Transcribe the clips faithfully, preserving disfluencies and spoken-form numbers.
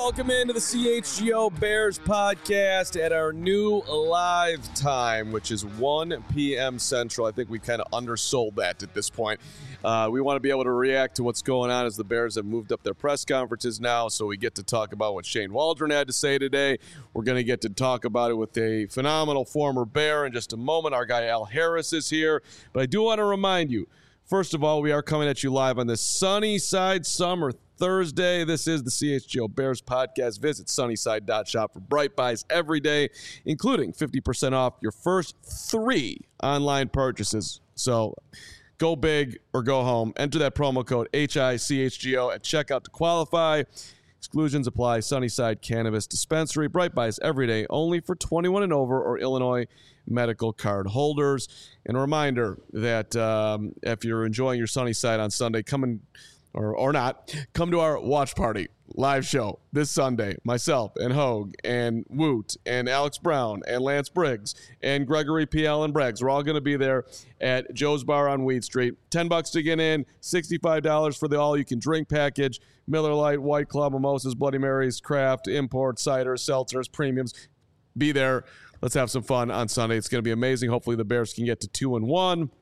welcome into the C H G O Bears podcast at our new live time, which is one p.m. Central. I think we kind of undersold that at this point. Uh, we want to be able to react to what's going on as the Bears have moved up their press conferences now, so we get to talk about what Shane Waldron had to say today. We're going to get to talk about it with a phenomenal former Bear in just a moment. Our guy Al Harris is here, but I do want to remind you, first of all, we are coming at you live on this sunny side summer Thursday. This is the C H G O Bears podcast. Visit sunnyside dot shop for bright buys every day, including fifty percent off your first three online purchases. So go big or go home. Enter that promo code H I C H G O at checkout to qualify. Exclusions apply. Sunnyside Cannabis Dispensary. Bright buys every day, only for twenty-one and over or Illinois medical card holders. And a reminder that um, if you're enjoying your Sunnyside on Sunday, come and Or, or not, come to our watch party live show this Sunday. Myself and Hogue and Woot and Alex Brown and Lance Briggs and Gregory P. Allen Braggs. We're all going to be there at Joe's Bar on Weed Street. ten bucks to get in, sixty-five dollars for the all-you-can-drink package. Miller Lite, White Claw, Mimosas, Bloody Marys, craft, import, ciders, seltzers, premiums. Be there. Let's have some fun on Sunday. It's going to be amazing. Hopefully the Bears can get to two and one.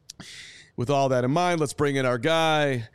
With all that in mind, let's bring in our guy,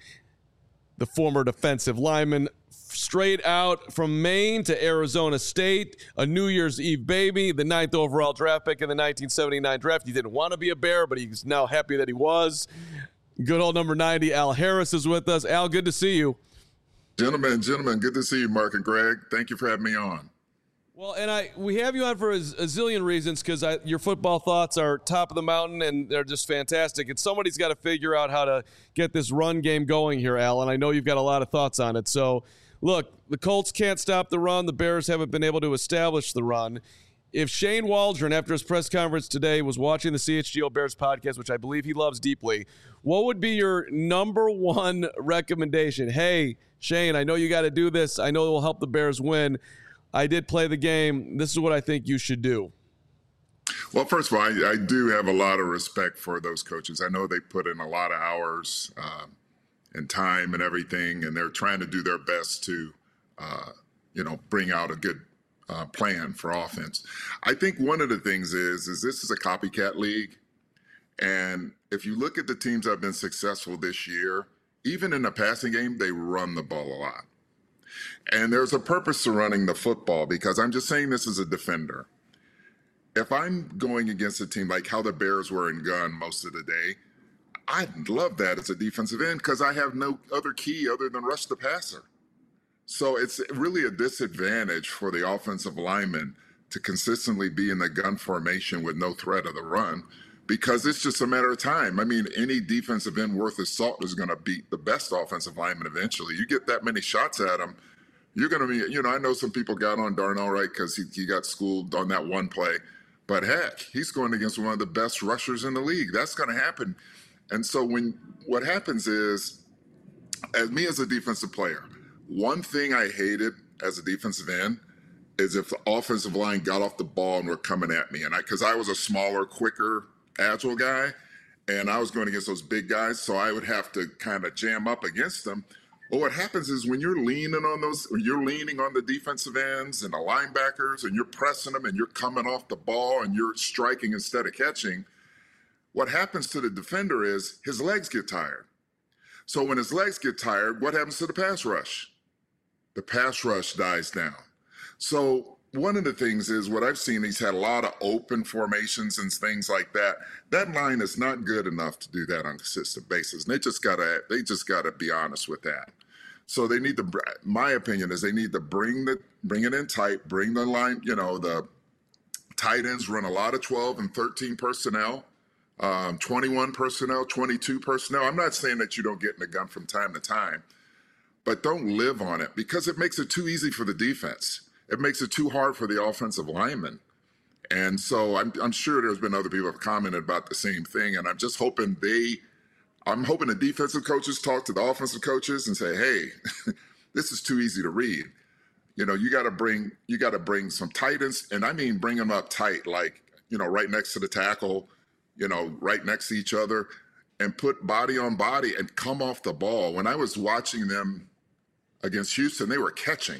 the former defensive lineman, straight out from Maine to Arizona State, a New Year's Eve baby, the ninth overall draft pick in the nineteen seventy-nine draft. He didn't want to be a Bear, but he's now happy that he was. Good old number ninety, Al Harris, is with us. Al, good to see you. Gentlemen, gentlemen, good to see you, Mark and Greg. Thank you for having me on. Well, and I we have you on for a, a zillion reasons because your football thoughts are top of the mountain and they're just fantastic. And somebody's got to figure out how to get this run game going here, Al, and I know you've got a lot of thoughts on it. So, look, the Colts can't stop the run. The Bears haven't been able to establish the run. If Shane Waldron, after his press conference today, was watching the C H G O Bears podcast, which I believe he loves deeply, what would be your number one recommendation? Hey, Shane, I know you got to do this. I know it will help the Bears win. I did play the game. This is what I think you should do. Well, first of all, I, I do have a lot of respect for those coaches. I know they put in a lot of hours um, and time and everything, and they're trying to do their best to, uh, you know, bring out a good uh, plan for offense. I think one of the things is, is this is a copycat league. And if you look at the teams that have been successful this year, even in the passing game, they run the ball a lot. And there's a purpose to running the football, because I'm just saying this as a defender. If I'm going against a team like how the Bears were in gun most of the day, I'd love that as a defensive end because I have no other key other than rush the passer. So it's really a disadvantage for the offensive lineman to consistently be in the gun formation with no threat of the run, because it's just a matter of time. I mean, any defensive end worth his salt is going to beat the best offensive lineman eventually. You get that many shots at him, you're going to be, you know, I know some people got on Darnell Wright because he, he got schooled on that one play. But heck, he's going against one of the best rushers in the league. That's going to happen. And so when what happens is, as me as a defensive player, one thing I hated as a defensive end is if the offensive line got off the ball and were coming at me. And I, because I was a smaller, quicker, agile guy, and I was going against those big guys, so I would have to kind of jam up against them. Well, what happens is when you're leaning on those, or you're leaning on the defensive ends and the linebackers, and you're pressing them, and you're coming off the ball, and you're striking instead of catching, what happens to the defender is his legs get tired. So when his legs get tired, what happens to the pass rush? The pass rush dies down. So one of the things is what I've seen, he's had a lot of open formations and things like that. That line is not good enough to do that on a consistent basis. And they just gotta, they just gotta be honest with that. So they need to, my opinion is they need to bring the, bring it in tight, bring the line, you know, the tight ends run a lot of twelve and thirteen personnel, um, twenty-one personnel, twenty-two personnel. I'm not saying that you don't get in the gun from time to time, but don't live on it because it makes it too easy for the defense. It makes it too hard for the offensive lineman. And so I'm, I'm sure there's been other people who have commented about the same thing. And I'm just hoping they, I'm hoping the defensive coaches talk to the offensive coaches and say, hey, this is too easy to read. You know, you got to bring, you got to bring some tight ends. And I mean, bring them up tight, like, you know, right next to the tackle, you know, right next to each other, and put body on body and come off the ball. When I was watching them against Houston, they were catching.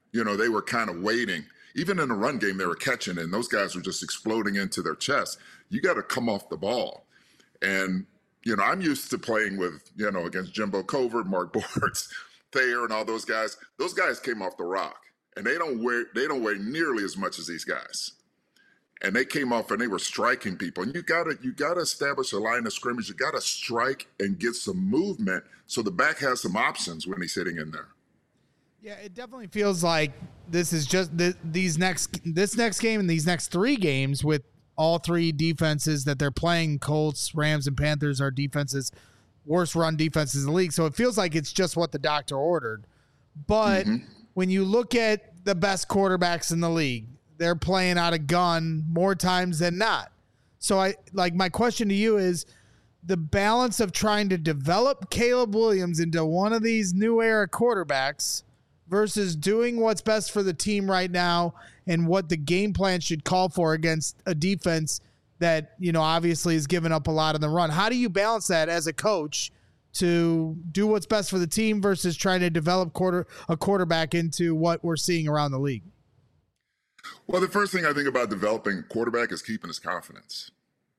You know, they were kind of waiting. Even in the run game, they were catching, and those guys were just exploding into their chest. You got to come off the ball. And, you know, I'm used to playing with, you know, against Jimbo Covert, Mark Bortz, Thayer, and all those guys. Those guys came off the rock, and they don't weigh, they don't weigh nearly as much as these guys. And they came off and they were striking people. And you gotta you gotta establish a line of scrimmage. You gotta strike and get some movement so the back has some options when he's sitting in there. Yeah, it definitely feels like this is just the, these next this next game and these next three games with all three defenses that they're playing. Colts, Rams, and Panthers are defenses, worst run defenses in the league. So it feels like it's just what the doctor ordered. But mm-hmm. when you look at the best quarterbacks in the league, they're playing out of gun more times than not. So I like my question to you is the balance of trying to develop Caleb Williams into one of these new era quarterbacks versus doing what's best for the team right now and what the game plan should call for against a defense that, you know, obviously has given up a lot in the run. How do you balance that as a coach to do what's best for the team versus trying to develop quarter a quarterback into what we're seeing around the league? Well, the first thing I think about developing a quarterback is keeping his confidence.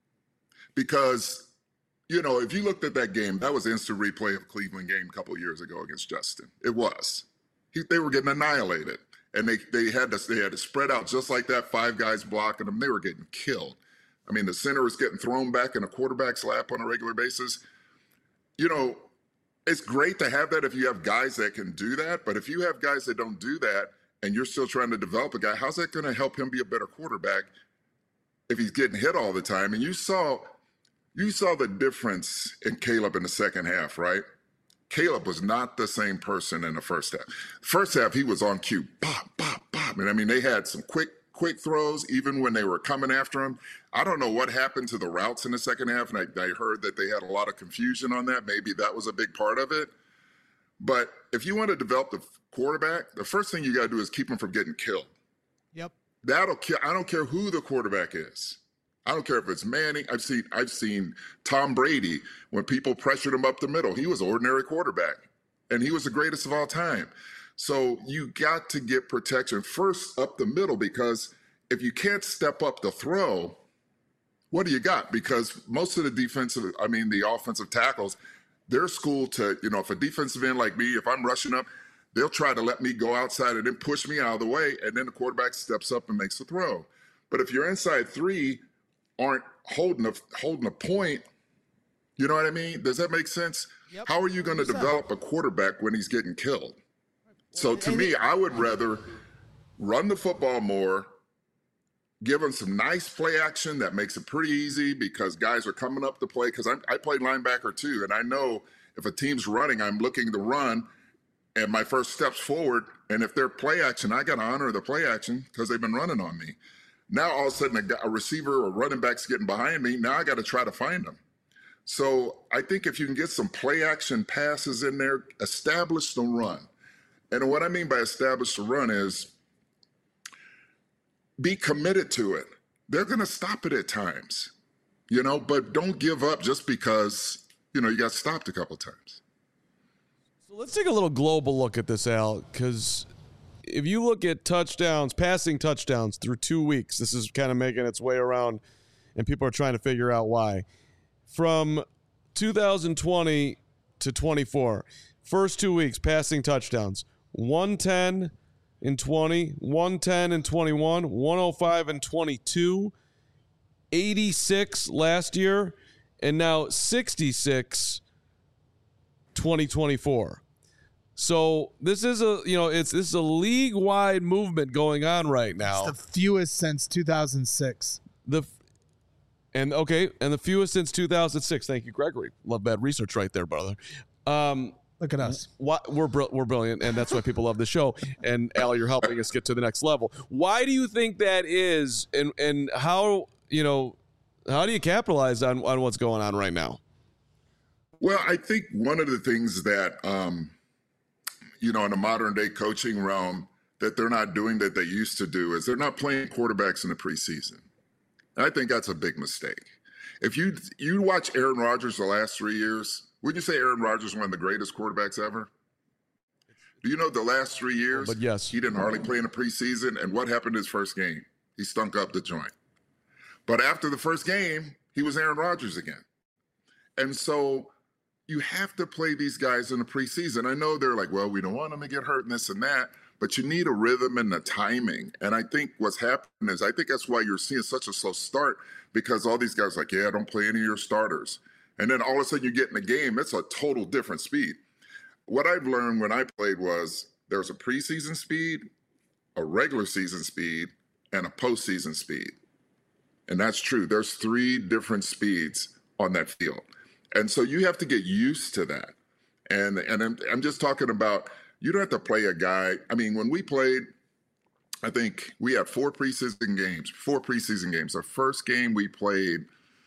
Because, you know, if you looked at that game, that was instant replay of Cleveland game a couple of years ago against Justin. It was. He, they were getting annihilated. And they, they, had to, they had to spread out just like that, five guys blocking them. They were getting killed. I mean, the center was getting thrown back in a quarterback's lap on a regular basis. You know, it's great to have that if you have guys that can do that. But if you have guys that don't do that, and you're still trying to develop a guy, how's that going to help him be a better quarterback if he's getting hit all the time? And you saw you saw the difference in Caleb in the second half, right? Caleb was not the same person in the first half. First half, he was on cue, pop, pop, pop. And I mean, they had some quick, quick throws, even when they were coming after him. I don't know what happened to the routes in the second half, and I, I heard that they had a lot of confusion on that. Maybe that was a big part of it. But if you want to develop the quarterback, the first thing you got to do is keep him from getting killed. Yep. That'll kill. I don't care who the quarterback is. I don't care if it's Manning. I've seen I've seen Tom Brady when people pressured him up the middle. He was an ordinary quarterback, and he was the greatest of all time. So you got to get protection first up the middle, because if you can't step up the throw, what do you got? Because most of the defensive, I mean, the offensive tackles, they're schooled to, you know, if a defensive end like me, if I'm rushing up, they'll try to let me go outside and then push me out of the way, and then the quarterback steps up and makes the throw. But if your inside three aren't holding a, holding a point, you know what I mean? Does that make sense? Yep. How are you going to develop a quarterback when he's getting killed? So to me, I would rather run the football more, give them some nice play action that makes it pretty easy because guys are coming up to play. Because I played linebacker too, and I know if a team's running, I'm looking to run, and my first steps forward, and if they're play action, I got to honor the play action because they've been running on me. Now all of a sudden a, a receiver or running back's getting behind me. Now I got to try to find them. So I think if you can get some play action passes in there, establish the run. And what I mean by establish the run is be committed to it. They're going to stop it at times, you know, but don't give up just because, you know, you got stopped a couple times. So let's take a little global look at this, Al, because if you look at touchdowns, passing touchdowns through two weeks, this is kind of making its way around, and people are trying to figure out why. From two thousand twenty to twenty-four, first two weeks, passing touchdowns, one ten in twenty, one ten in twenty-one, one oh five in twenty-two, eighty-six last year, and now sixty-six twenty twenty-four. So this is a, you know, it's this is a league-wide movement going on right now. It's the fewest since two thousand six. The and okay, and the fewest since two thousand six. Thank you, Gregory. Love bad research right there, brother. Um, Look at us. Why, we're we're brilliant, and that's why people love the show. And Al, you're helping us get to the next level. Why do you think that is, and and how, you know, how do you capitalize on on what's going on right now? Well, I think one of the things that, um, you know, in the modern day coaching realm that they're not doing that they used to do is they're not playing quarterbacks in the preseason. And I think that's a big mistake. If you you watch Aaron Rodgers the last three years, would you say Aaron Rodgers is one of the greatest quarterbacks ever? Do you know the last three years, but yes, he didn't hardly play in the preseason, and what happened his first game? He stunk up the joint. But after the first game, he was Aaron Rodgers again. And so you have to play these guys in the preseason. I know they're like, well, we don't want them to get hurt and this and that, but you need a rhythm and the timing. And I think what's happening is I think that's why you're seeing such a slow start, because all these guys are like, yeah, don't play any of your starters. And then all of a sudden you get in the game, it's a total different speed. What I've learned when I played was there's a preseason speed, a regular season speed, and a postseason speed. And that's true. There's three different speeds on that field. And so you have to get used to that. And and I'm, I'm just talking about, you don't have to play a guy. I mean, when we played, I think we had four preseason games, four preseason games. The first game we played,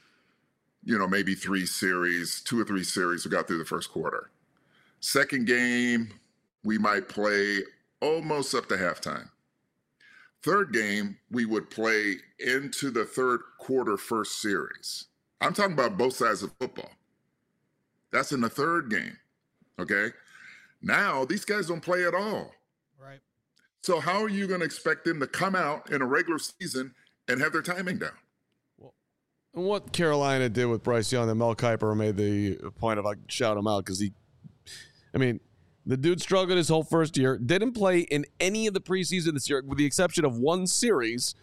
you know, maybe three series, two or three series. We got through the first quarter. Second game, we might play almost up to halftime. Third game, we would play into the third quarter first series. I'm talking about both sides of football. That's in the third game, okay? Now, these guys don't play at all. Right. So how are you going to expect them to come out in a regular season and have their timing down? Well, and what Carolina did with Bryce Young, and Mel Kiper made the point of, I shout him out because he, I mean, the dude struggled his whole first year, didn't play in any of the preseason this year, with the exception of one series.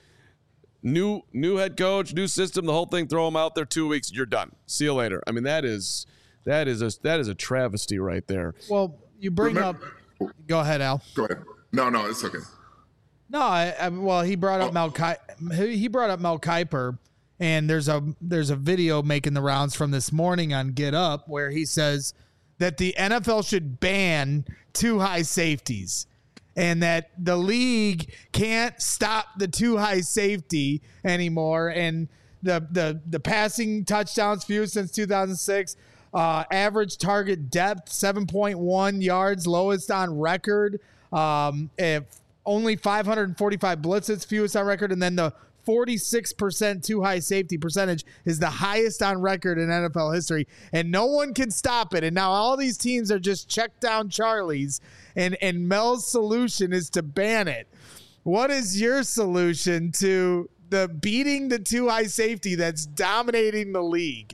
New new head coach, new system, the whole thing, throw him out there two weeks, you're done. See you later. I mean, that is that is a that is a travesty right there. Well, you bring Remember, up – go ahead, Al. Go ahead. No, no, it's okay. No, I, I, well, he brought up oh. Mel Ki- he brought up Mel Kiper, and there's a there's a video making the rounds from this morning on Get Up where he says – that the N F L should ban two high safeties and that the league can't stop the two high safety anymore. And the, the, the passing touchdowns few since two thousand six, uh, average target depth, seven point one yards, lowest on record. Um, if only five hundred forty-five blitzes, fewest on record. And then the forty-six percent too high safety percentage is the highest on record in N F L history, and no one can stop it. And now all these teams are just check down Charlies, and, and Mel's solution is to ban it. What is your solution to the beating the too high safety that's dominating the league?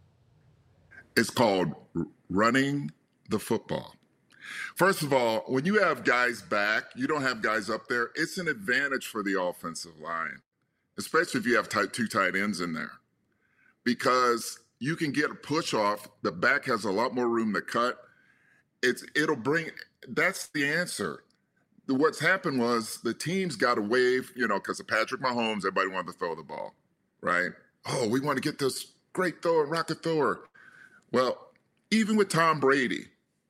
It's called running the football. First of all, when you have guys back, you don't have guys up there, it's an advantage for the offensive line, especially if you have tight, two tight ends in there, because you can get a push off. The back has a lot more room to cut. It's it'll bring. That's the answer. What's happened was the teams got a wave, you know, because of Patrick Mahomes. Everybody wanted to throw the ball, right? Oh, we want to get this great thrower, rocket thrower. Well, even with Tom Brady,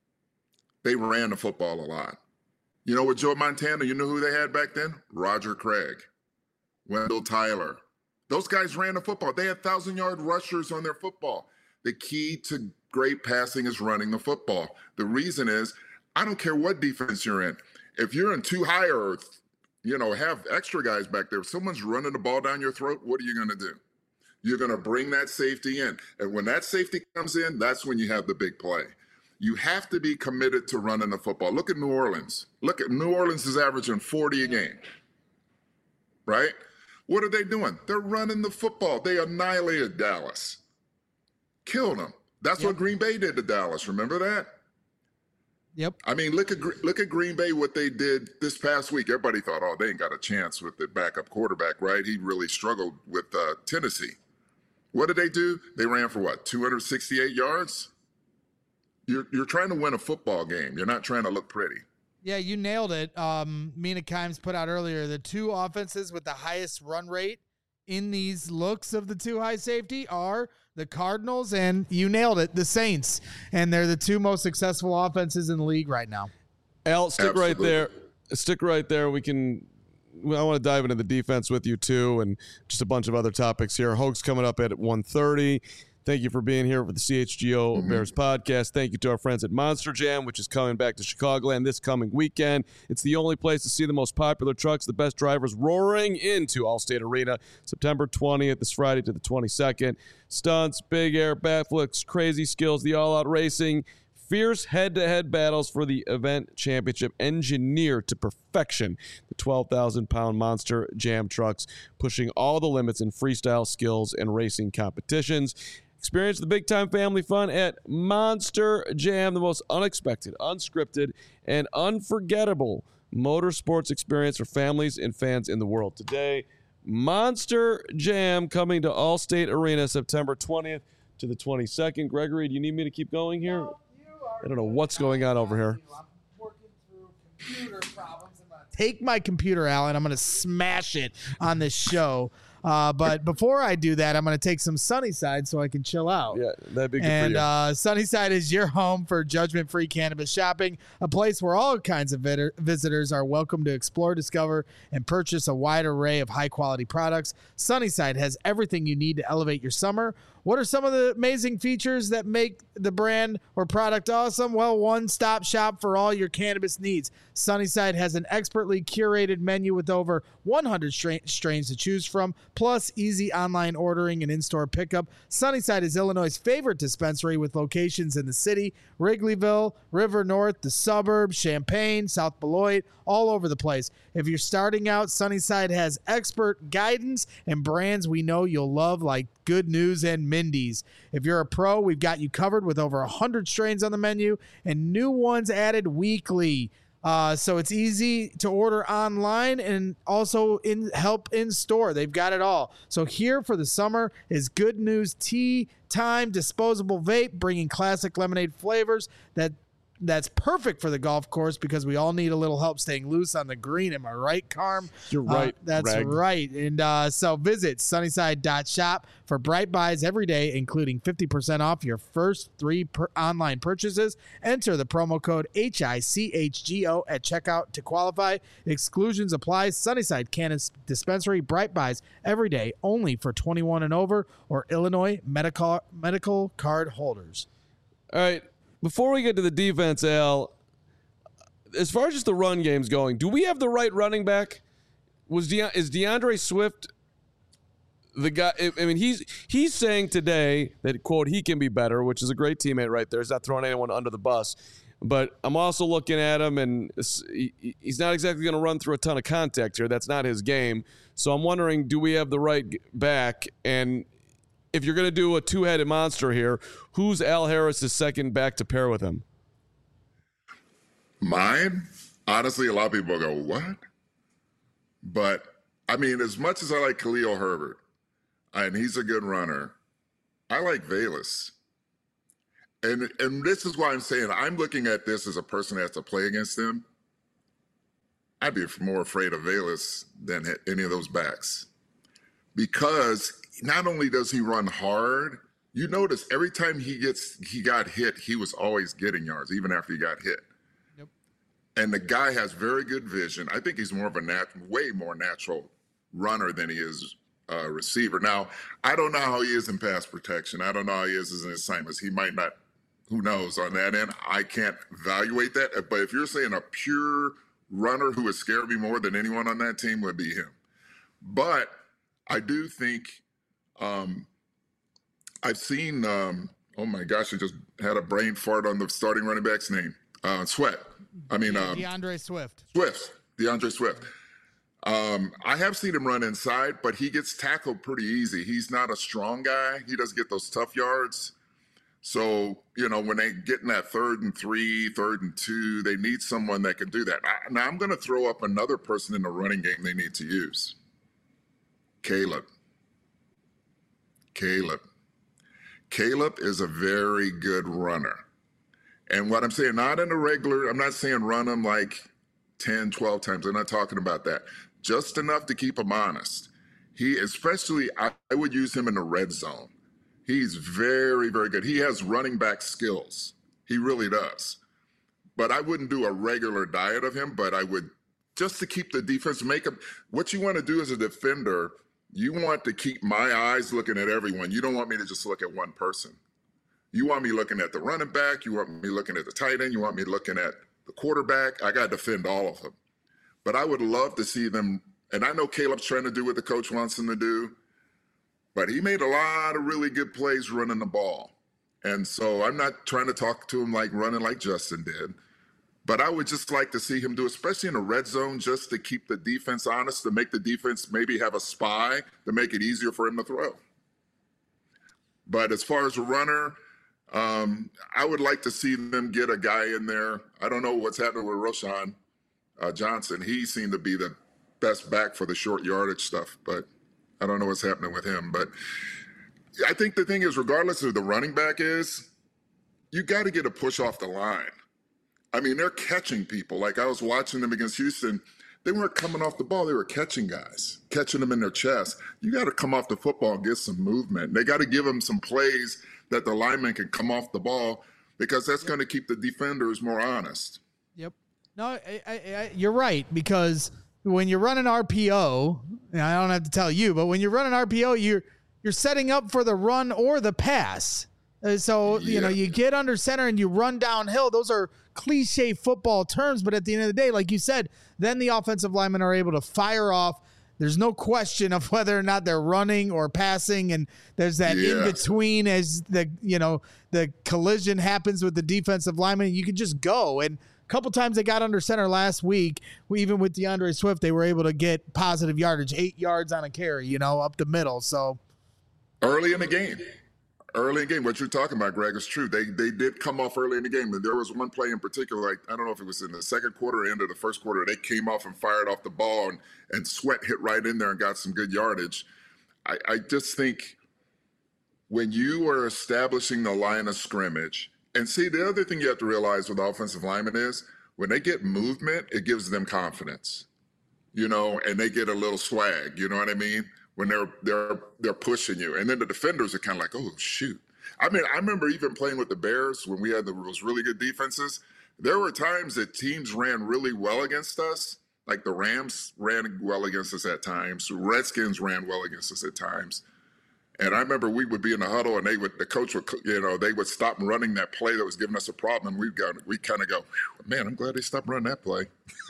they ran the football a lot. You know, with Joe Montana, you know who they had back then? Roger Craig, Wendell Tyler. Those guys ran the football. They had thousand-yard rushers on their football. The key to great passing is running the football. The reason is, I don't care what defense you're in. If you're in too high or, you know, have extra guys back there, if someone's running the ball down your throat, what are you going to do? You're going to bring that safety in. And when that safety comes in, that's when you have the big play. You have to be committed to running the football. Look at New Orleans. Look at New Orleans is averaging forty a game, right? What are they doing? They're running the football. They annihilated Dallas, killed them. That's yep. what Green Bay did to Dallas. Remember that? Yep. I mean, look at look at Green Bay, what they did this past week. Everybody thought, oh, they ain't got a chance with the backup quarterback, right? He really struggled with uh, Tennessee. What did they do? They ran for what, two hundred sixty-eight yards? You're you're trying to win a football game. You're not trying to look pretty. Yeah, you nailed it. Um, Mina Kimes put out earlier, the two offenses with the highest run rate in these looks of the two high safety are the Cardinals and, you nailed it, the Saints. And they're the two most successful offenses in the league right now. Al, stick Absolutely. right there. Stick right there. We can – I want to dive into the defense with you too and just a bunch of other topics here. Hoke's coming up at one thirty. Thank you for being here for the C H G O mm-hmm. Bears podcast. Thank you to our friends at Monster Jam, which is coming back to Chicagoland this coming weekend. It's the only place to see the most popular trucks, the best drivers roaring into Allstate Arena September twentieth, this Friday to the twenty-second. Stunts, big air, backflips, crazy skills, the all-out racing, Fierce head-to-head battles for the event championship engineered to perfection. The twelve thousand pound Monster Jam trucks pushing all the limits in freestyle skills and racing competitions. Experience the big-time family fun at Monster Jam, the most unexpected, unscripted, and unforgettable motorsports experience for families and fans in the world. Today, Monster Jam coming to Allstate Arena September twentieth to the twenty-second. Gregory, do you need me to keep going here? No, I don't know what's going on over here. I'm working through computer problems. I'm gonna take my computer, Alan. I'm going to smash it on this show. Uh, but before I do that, I'm going to take some Sunnyside so I can chill out. Yeah, that'd be good and, for you. Uh, Sunnyside is your home for judgment-free cannabis shopping, a place where all kinds of vid- visitors are welcome to explore, discover, and purchase a wide array of high-quality products. Sunnyside has everything you need to elevate your summer. What are some of the amazing features that make the brand or product awesome? Well, one-stop shop for all your cannabis needs. Sunnyside has an expertly curated menu with over one hundred stra- strains to choose from, plus easy online ordering and in-store pickup. Sunnyside is Illinois' favorite dispensary with locations in the city, Wrigleyville, River North, the suburbs, Champaign, South Beloit, all over the place. If you're starting out, Sunnyside has expert guidance and brands we know you'll love, like Good News and Mindy's. If you're a pro, we've got you covered with over one hundred strains on the menu and new ones added weekly. Uh, so it's easy to order online and also in help in store. They've got it all. So here for the summer is Good News Tea Time Disposable Vape, bringing classic lemonade flavors that that's perfect for the golf course because we all need a little help staying loose on the green. Am I right, Carm? You're right. Uh, that's Rag. right. And uh, so visit sunnyside dot shop for bright buys every day, including fifty percent off your first three per online purchases. Enter the promo code H I C H G O at checkout to qualify. Exclusions apply. Sunnyside Cannabis Dispensary, bright buys every day, only for twenty-one and over or Illinois medical medical card holders. All right. Before we get to the defense, Al, as far as just the run game's going, do we have the right running back? Was De- is DeAndre Swift the guy? I mean, he's he's saying today that, quote, he can be better, which is a great teammate right there. He's not throwing anyone under the bus. But I'm also looking at him, and he's not exactly going to run through a ton of contact here. That's not his game. So I'm wondering, do we have the right back? And if you're going to do a two-headed monster here, who's Al Harris's second back to pair with him? Mine? Honestly, a lot of people go, what? But, I mean, as much as I like Khalil Herbert, and he's a good runner, I like Velus. And, and this is why I'm saying I'm looking at this as a person that has to play against him. I'd be more afraid of Velus than any of those backs. Because not only does he run hard, you notice every time he gets he got hit, he was always getting yards, even after he got hit. Yep. And the guy has very good vision. I think he's more of a nat- way more natural runner than he is a receiver. Now, I don't know how he is in pass protection. I don't know how he is in assignments. He might not, who knows on that end. I can't evaluate that. But if you're saying a pure runner who would scare me more than anyone on that team, would be him. But I do think um, I've seen, um, oh my gosh, I just had a brain fart on the starting running back's name. Uh, Sweat. I mean, um, DeAndre Swift. Swift. DeAndre Swift. Um, I have seen him run inside, but he gets tackled pretty easy. He's not a strong guy. He doesn't get those tough yards. So, you know, when they get in that third and three, third and two, they need someone that can do that. I, now, I'm going to throw up another person in the running game they need to use. Caleb. Caleb. Caleb is a very good runner. And what I'm saying, not in a regular, I'm not saying run him like ten, twelve times. I'm not talking about that. Just enough to keep him honest. He, especially, I, I would use him in the red zone. He's very, very good. He has running back skills. He really does. But I wouldn't do a regular diet of him, but I would, just to keep the defense, make him, what you want to do as a defender, you want to keep my eyes looking at everyone. You don't want me to just look at one person. You want me looking at the running back. You want me looking at the tight end. You want me looking at the quarterback. I got to defend all of them. But I would love to see them, and I know Caleb's trying to do what the coach wants him to do, but he made a lot of really good plays running the ball. And so I'm not trying to talk to him like running like Justin did. But I would just like to see him do, especially in the red zone, just to keep the defense honest, to make the defense maybe have a spy to make it easier for him to throw. But as far as a runner, um, I would like to see them get a guy in there. I don't know what's happening with Roschon uh, Johnson. He seemed to be the best back for the short yardage stuff, but I don't know what's happening with him. But I think the thing is, regardless of who the running back is, you got to get a push off the line. I mean, they're catching people. Like I was watching them against Houston. They weren't coming off the ball. They were catching guys, catching them in their chest. You got to come off the football and get some movement. They got to give them some plays that the lineman can come off the ball, because that's going to keep the defenders more honest. Yep. No, I, I, I, you're right, because when you run an R P O, and I don't have to tell you, but when you run an R P O, you're you're setting up for the run or the pass. Uh, so, yeah. you know, you get under center and you run downhill. Those are cliche football terms, but at the end of the day, like you said, then the offensive linemen are able to fire off. There's no question of whether or not they're running or passing, and there's that yeah. in between as the you know the collision happens with the defensive lineman. You can just go. And a couple times they got under center last week. We, even with DeAndre Swift, they were able to get positive yardage, eight yards on a carry, you know, up the middle. So early in the game. Early in the game, what you're talking about, Greg, is true. They they did come off early in the game. And there was one play in particular, like, I don't know if it was in the second quarter or end of the first quarter, they came off and fired off the ball, and, and Sweat hit right in there and got some good yardage. I, I just think when you are establishing the line of scrimmage, and see, the other thing you have to realize with offensive linemen is when they get movement, it gives them confidence, you know, and they get a little swag, you know what I mean? When they're they're they're pushing you, and then the defenders are kind of like, oh shoot. I mean, I remember even playing with the Bears when we had the, those really good defenses. There were times that teams ran really well against us, like the Rams ran well against us at times. Redskins ran well against us at times. And I remember we would be in the huddle, and they would the coach would you know they would stop running that play that was giving us a problem, and we'd go we kind of go, man, I'm glad they stopped running that play.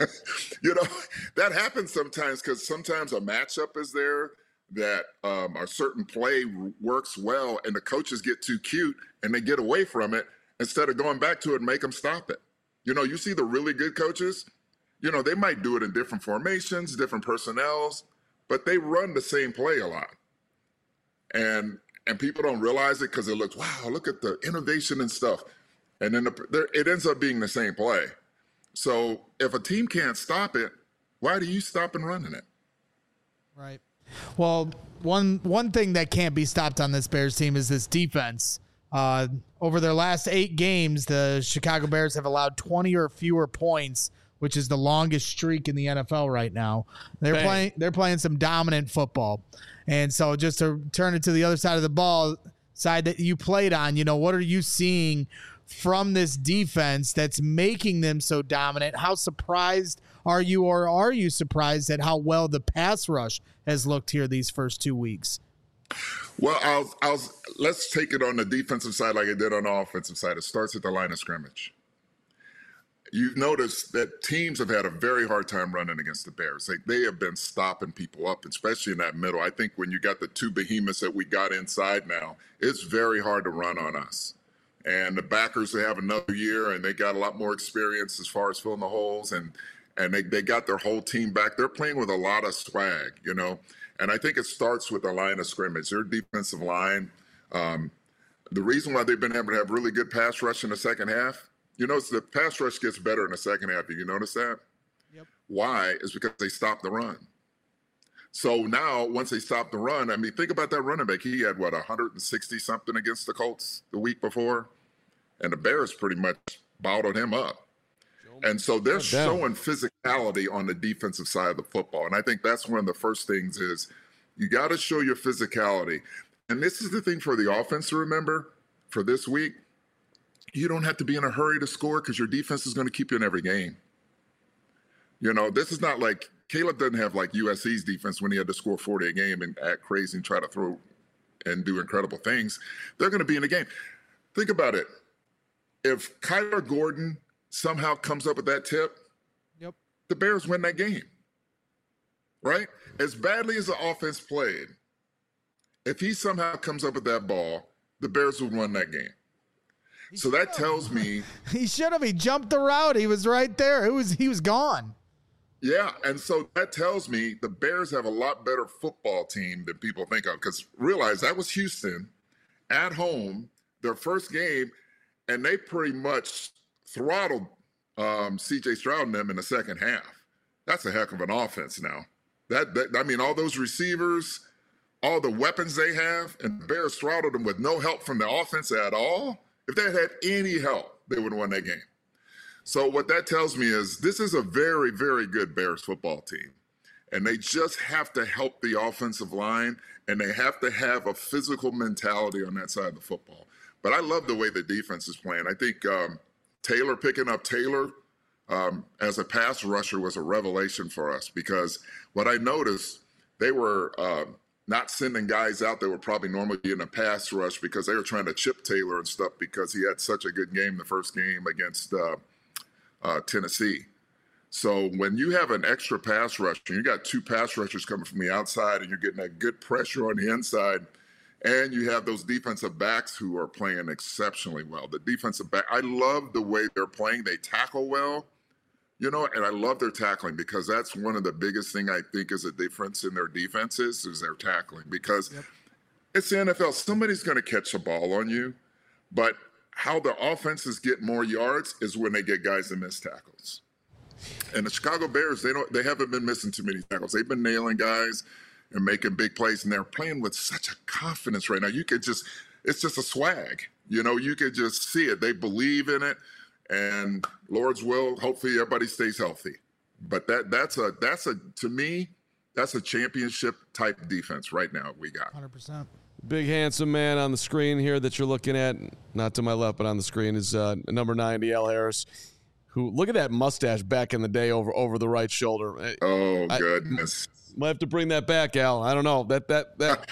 you know, that happens sometimes because sometimes a matchup is there that um, a certain play works well, and the coaches get too cute and they get away from it instead of going back to it and make them stop it. You know, you see the really good coaches, you know, they might do it in different formations, different personnels, but they run the same play a lot. And and people don't realize it because it looks, wow, look at the innovation and stuff. And then the, it ends up being the same play. So if a team can't stop it, why do you stop and running it? Right. Well, one one thing that can't be stopped on this Bears team is this defense. Uh, over their last eight games, the Chicago Bears have allowed twenty or fewer points, which is the longest streak in the N F L right now. They're Bang. playing they're playing some dominant football. And so just to turn it to the other side of the ball, side that you played on, you know, what are you seeing from this defense that's making them so dominant? How surprised are you, or are you surprised at how well the pass rush has looked here these first two weeks? Well, I'll, I'll, let's take it on the defensive side like it did on the offensive side. It starts at the line of scrimmage. You've noticed that teams have had a very hard time running against the Bears. They, they have been stopping people up, especially in that middle. I think when you got the two behemoths that we got inside now, it's very hard to run on us. And the backers, they have another year, and they got a lot more experience as far as filling the holes, and and they, they got their whole team back. They're playing with a lot of swag, you know. And I think it starts with the line of scrimmage. Their defensive line, um, the reason why they've been able to have really good pass rush in the second half, you notice the pass rush gets better in the second half. Did you notice that? Yep. Why? Is because they stopped the run. So now, once they stopped the run, I mean, think about that running back. He had, what, one hundred sixty something against the Colts the week before? And the Bears pretty much bottled him up. And so they're showing physicality on the defensive side of the football. And I think that's one of the first things is you got to show your physicality. And this is the thing for the offense to remember for this week. You don't have to be in a hurry to score because your defense is going to keep you in every game. You know, this is not like Caleb doesn't have like U S C's defense when he had to score forty a game and act crazy and try to throw and do incredible things. They're going to be in the game. Think about it. If Kyler Gordon somehow comes up with that tip, yep, the Bears win that game, right? As badly as the offense played, if he somehow comes up with that ball, the Bears will win that game. So that tells me he should have. He jumped the route. He was right there. It was he was gone. Yeah, and so that tells me the Bears have a lot better football team than people think of. Because realize that was Houston at home, their first game, and they pretty much throttled um, C J Stroud and them in the second half. That's a heck of an offense now. That, that I mean, all those receivers, all the weapons they have, and the Bears throttled them with no help from the offense at all. If they had had any help, they would have won that game. So what that tells me is this is a very, very good Bears football team. And they just have to help the offensive line, and they have to have a physical mentality on that side of the football. But I love the way the defense is playing. I think um, Taylor, picking up Taylor um, as a pass rusher was a revelation for us, because what I noticed, they were uh, not sending guys out that were probably normally in a pass rush because they were trying to chip Taylor and stuff because he had such a good game the first game against uh, uh, Tennessee. So when you have an extra pass rush, and you got two pass rushers coming from the outside, and you're getting that good pressure on the inside, and you have those defensive backs who are playing exceptionally well. The defensive back, I love the way they're playing. They tackle well, you know, and I love their tackling, because that's one of the biggest thing I think is a difference in their defenses is their tackling, because yep. It's the N F L. Somebody's going to catch the ball on you, but how the offenses get more yards is when they get guys that miss tackles. And the Chicago Bears, they don't, they haven't been missing too many tackles. They've been nailing guys and making big plays, and they're playing with such a confidence right now. You could just, it's just a swag. You know, you could just see it. They believe in it, and Lord's will, hopefully everybody stays healthy. But that that's a, that's a, to me, that's a championship type defense right now we got. one hundred percent. Big handsome man on the screen here that you're looking at, not to my left, but on the screen is uh, number ninety, Al Harris. Who, look at that mustache back in the day over over the right shoulder. Oh, goodness. I might have to bring that back, Al. I don't know. That that that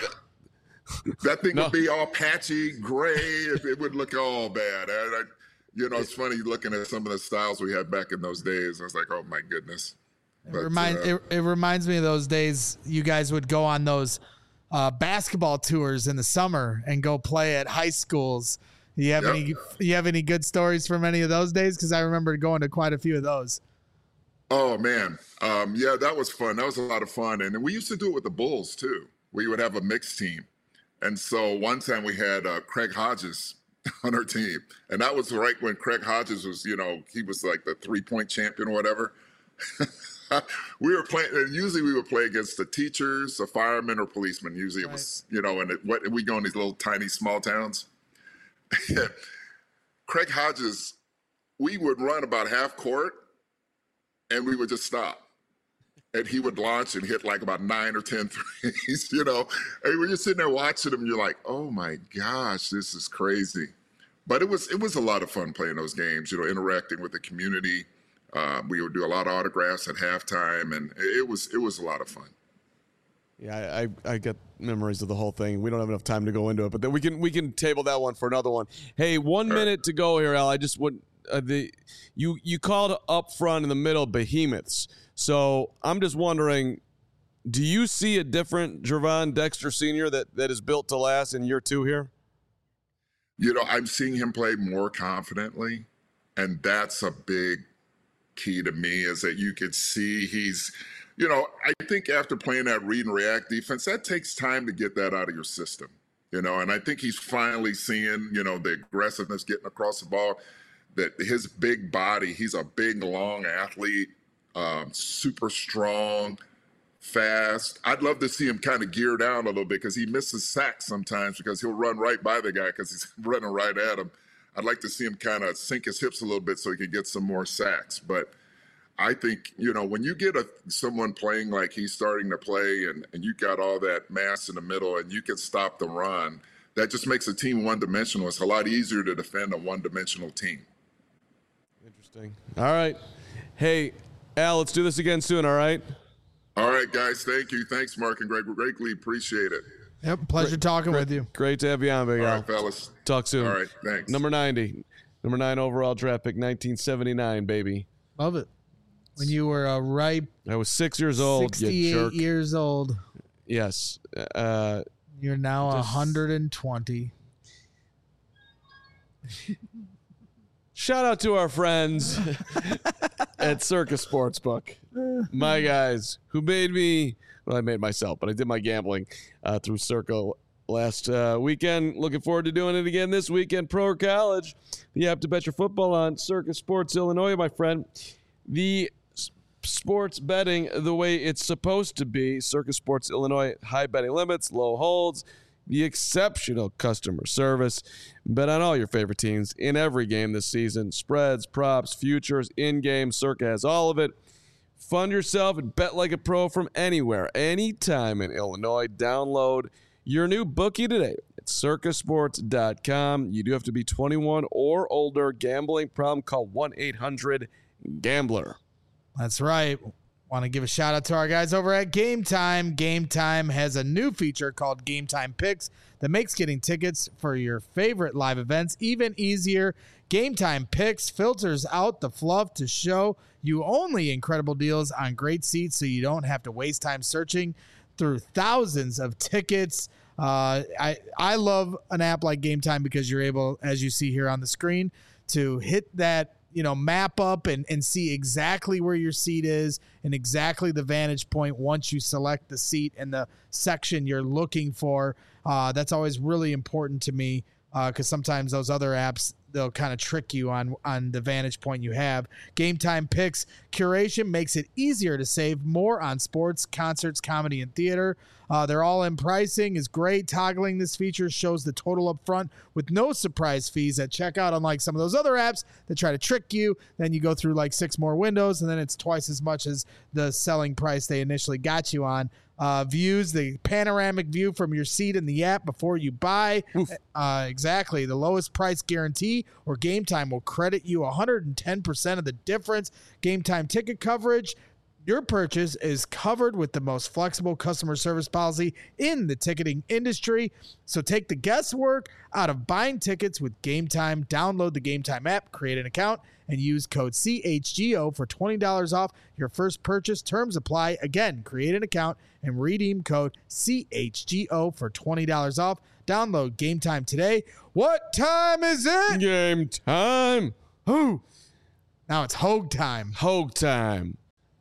that thing no. would be all patchy, gray. It, it would look all bad. I, I, you know, it's funny looking at some of the styles we had back in those days. I was like, oh, my goodness. It, but, remind, uh, it, it reminds me of those days you guys would go on those uh, basketball tours in the summer and go play at high schools. You have yep. any you have any good stories from any of those days? Because I remember going to quite a few of those. Oh, man. Um, yeah, that was fun. That was a lot of fun. And we used to do it with the Bulls, too. We would have a mixed team. And so one time we had uh, Craig Hodges on our team. And that was right when Craig Hodges was, you know, he was like the three-point champion or whatever. We were playing, and usually we would play against the teachers, the firemen, or policemen. Usually it right. was, you know, and it, what, we go in these little tiny small towns. Craig Hodges, we would run about half court and we would just stop. And he would launch and hit like about nine or ten threes, you know. And we're just sitting there watching him, and you're like, oh my gosh, this is crazy. But it was it was a lot of fun playing those games, you know, interacting with the community. Uh, we would do a lot of autographs at halftime, and it was it was a lot of fun. Yeah, I, I get memories of the whole thing. We don't have enough time to go into it, but then we can we can table that one for another one. Hey, one All minute right. to go here, Al. I just would uh, the you you called up front in the middle behemoths. So I'm just wondering, do you see a different Gervon Dexter Senior that that is built to last in year two here? You know, I'm seeing him play more confidently, and that's a big key to me. Is that you could see he's. You know, I think after playing that read and react defense, that takes time to get that out of your system, you know, and I think he's finally seeing, you know, the aggressiveness getting across the ball, that his big body, he's a big, long athlete, um, super strong, fast. I'd love to see him kind of gear down a little bit because he misses sacks sometimes because he'll run right by the guy because he's running right at him. I'd like to see him kind of sink his hips a little bit so he can get some more sacks, but I think, you know, when you get a someone playing like he's starting to play and, and you got all that mass in the middle and you can stop the run, that just makes a team one-dimensional. It's a lot easier to defend a one-dimensional team. Interesting. All right. Hey, Al, let's do this again soon, all right? All right, guys. Thank you. Thanks, Mark and Greg. Greatly appreciate it. Yep, pleasure great, talking great, with you. Great to have you on, Big Al. All right, fellas. Talk soon. All right, thanks. Number ninety. Number nine overall draft pick, nineteen seventy-nine, baby. Love it. When you were a ripe, I was six years old. sixty-eight years old. Yes. Uh, You're now one hundred twenty. Shout out to our friends at Circus Sportsbook. My guys who made me, well, I made myself, but I did my gambling uh, through Circle last uh, weekend. Looking forward to doing it again this weekend. Pro or college, you have to bet your football on Circus Sports Illinois, my friend. The s- sports betting the way it's supposed to be. Circus Sports Illinois, high betting limits, low holds, the exceptional customer service. Bet on all your favorite teams in every game this season. Spreads, props, futures, in-game. Circa has all of it. Fund yourself and bet like a pro from anywhere, anytime in Illinois. Download your new bookie today at circus sports dot com. You do have to be twenty-one or older. Gambling problem, call one eight hundred gambler. That's right. Want to give a shout out to our guys over at Game Time. Game Time has a new feature called Game Time Picks that makes getting tickets for your favorite live events even easier. Game Time Picks filters out the fluff to show you only incredible deals on great seats so you don't have to waste time searching through thousands of tickets. Uh, I, I love an app like Game Time because you're able, as you see here on the screen, to hit that you know, map up and, and see exactly where your seat is and exactly the vantage point once you select the seat and the section you're looking for. Uh, that's always really important to me because uh, sometimes those other apps, they'll kind of trick you on, on the vantage point you have. Game Time Picks curation makes it easier to save more on sports, concerts, comedy, and theater. Uh, they're all in pricing is great. Toggling this feature shows the total up front with no surprise fees at checkout, unlike some of those other apps that try to trick you. Then you go through like six more windows, and then it's twice as much as the selling price they initially got you on. Uh, views, the panoramic view from your seat in the app before you buy. Uh, exactly. The lowest price guarantee or Game Time will credit you one hundred ten percent of the difference. Game Time ticket coverage. Your purchase is covered with the most flexible customer service policy in the ticketing industry. So take the guesswork out of buying tickets with Game Time. Download the Game Time app, create an account, and use code C H G O for twenty dollars off your first purchase. Terms apply. Again, create an account and redeem code C H G O for twenty dollars off. Download Game Time today. What time is it? Game time. Who? Now it's Hogue time. Hogue time.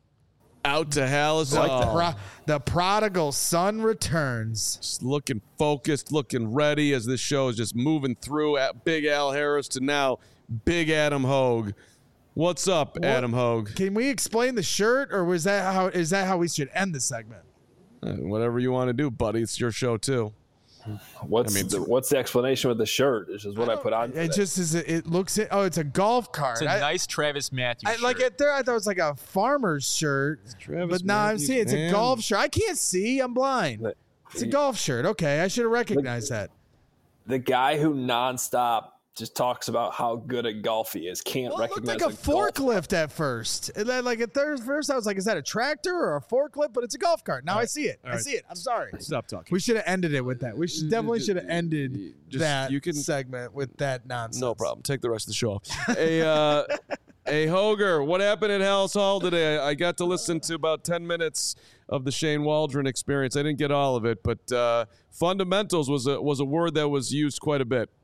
Out to Hallis. Like the, pro- the prodigal son returns. Just looking focused, looking ready as this show is just moving through at Big Al Harris to now Big Adam Hogue. What's up, what, Adam Hogue? Can we explain the shirt, or was that how is that how we should end the segment? Uh, whatever you want to do, buddy. It's your show too. What's I mean, the, what's the explanation with the shirt? This is what I, I put on. It today. just is. It looks. It, oh, it's a golf cart. It's a I, nice Travis Matthews. I, shirt. Like it there, I thought it was like a farmer's shirt. But now I'm seeing it's man. a golf shirt. I can't see. I'm blind. It's a golf shirt. Okay, I should have recognized the, that. The guy who nonstop just talks about how good at golf he is can't well, recognize. It looked like a, a forklift at first. It, like at first, I was like, "Is that a tractor or a forklift?" But it's a golf cart. Now right. I see it. All I see it. I'm sorry. Stop talking. We should have ended it with that. We should definitely should have ended just, that you can, segment with that nonsense. No problem. Take the rest of the show off. a uh, a Hoger, what happened at Hallis Hall today? I got to listen to about ten minutes of the Shane Waldron experience. I didn't get all of it, but uh, fundamentals was a was a word that was used quite a bit.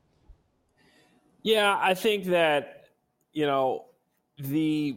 Yeah, I think that, you know, the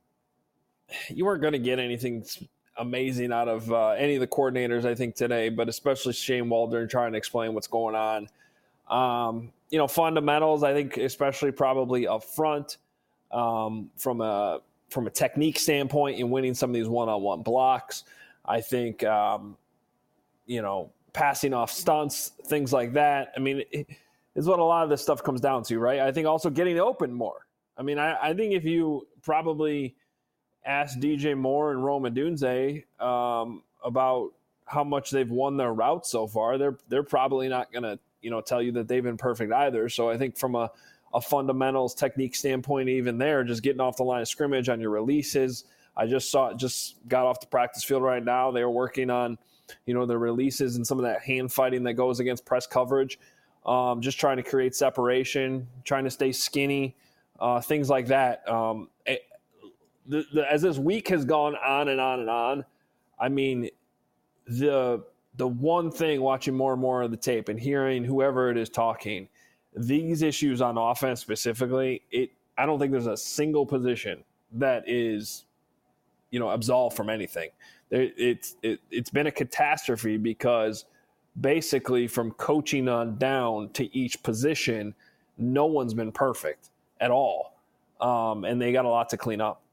you weren't going to get anything amazing out of uh, any of the coordinators, I think, today, but especially Shane Waldron trying to explain what's going on. Um, you know, fundamentals, I think, especially probably up front um, from a from a technique standpoint in winning some of these one-on-one blocks. I think, um, you know, passing off stunts, things like that. I mean, it, is what a lot of this stuff comes down to, right? I think also getting open more. I mean, I, I think if you probably ask D J Moore and Rome Odunze um, about how much they've won their routes so far, they're they're probably not going to, you know, tell you that they've been perfect either. So I think from a, a fundamentals technique standpoint, even there, just getting off the line of scrimmage on your releases. I just saw just got off the practice field right now. They were working on, you know, the releases and some of that hand fighting that goes against press coverage. Um, just trying to create separation, trying to stay skinny, uh, things like that. Um, it, the, the, as this week has gone on and on and on, I mean, the the one thing watching more and more of the tape and hearing whoever it is talking, these issues on offense specifically, it I don't think there's a single position that is, you know, absolved from anything. There, it's it, it's been a catastrophe because basically from coaching on down to each position, no one's been perfect at all, um, and they got a lot to clean up.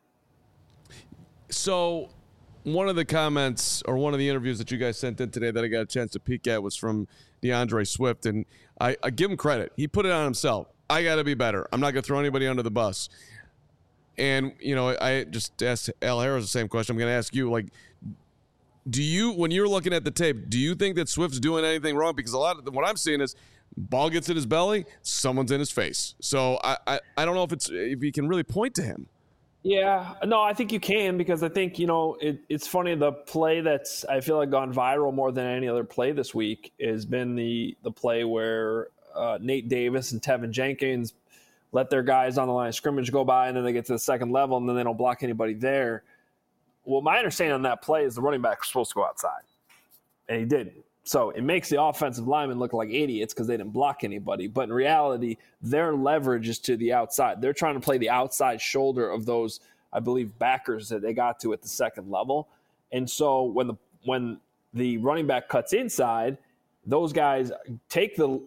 So one of the comments or one of the interviews that you guys sent in today that I got a chance to peek at was from DeAndre Swift, and I, I give him credit. He put it on himself. I got to be better. I'm not going to throw anybody under the bus. And, you know, I just asked Al Harris the same question. I'm going to ask you, like, do you, when you're looking at the tape, do you think that Swift's doing anything wrong? Because a lot of what I'm seeing is ball gets in his belly, someone's in his face. So I, I, I don't know if it's if you can really point to him. Yeah, no, I think you can, because I think, you know, it, it's funny. The play that's, I feel like, gone viral more than any other play this week has been the the play where uh, Nate Davis and Tevin Jenkins let their guys on the line of scrimmage go by, and then they get to the second level, and then they don't block anybody there. Well, my understanding on that play is the running back was supposed to go outside, and he didn't. So it makes the offensive linemen look like idiots because they didn't block anybody. But in reality, their leverage is to the outside. They're trying to play the outside shoulder of those, I believe, backers that they got to at the second level. And so when the when the running back cuts inside, those guys take the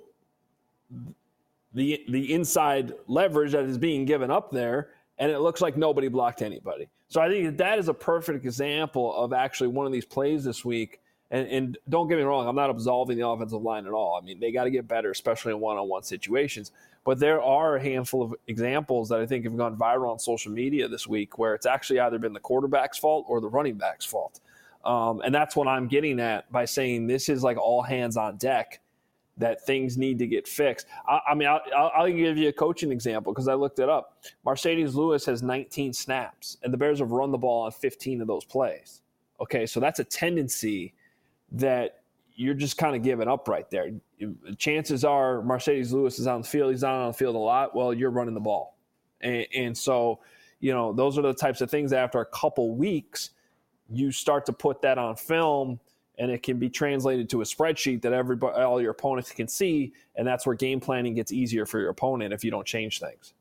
the the inside leverage that is being given up there, and it looks like nobody blocked anybody. So I think that, that is a perfect example of actually one of these plays this week. And, and don't get me wrong, I'm not absolving the offensive line at all. I mean, they got to get better, especially in one-on-one situations. But there are a handful of examples that I think have gone viral on social media this week where it's actually either been the quarterback's fault or the running back's fault. Um, and that's what I'm getting at by saying this is like all hands on deck, that things need to get fixed. I, I mean, I'll, I'll give you a coaching example because I looked it up. Marcedes Lewis has nineteen snaps, and the Bears have run the ball on fifteen of those plays. Okay, so that's a tendency that you're just kind of giving up right there. Chances are Marcedes Lewis is on the field. He's not on the field a lot. Well, you're running the ball. And, and so, you know, those are the types of things that after a couple weeks, you start to put that on film, and it can be translated to a spreadsheet that everybody, all your opponents can see, and that's where game planning gets easier for your opponent if you don't change things.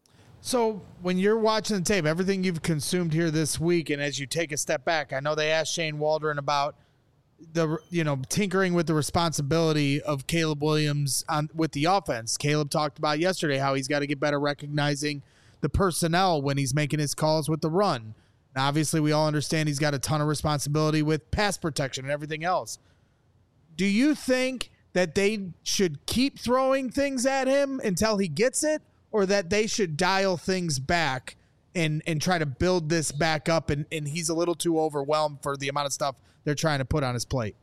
So when you're watching the tape, everything you've consumed here this week, and as you take a step back, I know they asked Shane Waldron about the, you know, tinkering with the responsibility of Caleb Williams on with the offense. Caleb talked about yesterday how he's got to get better recognizing the personnel when he's making his calls with the run. Now, obviously, we all understand he's got a ton of responsibility with pass protection and everything else. Do you think that they should keep throwing things at him until he gets it, or that they should dial things back and and try to build this back up, and, and he's a little too overwhelmed for the amount of stuff they're trying to put on his plate?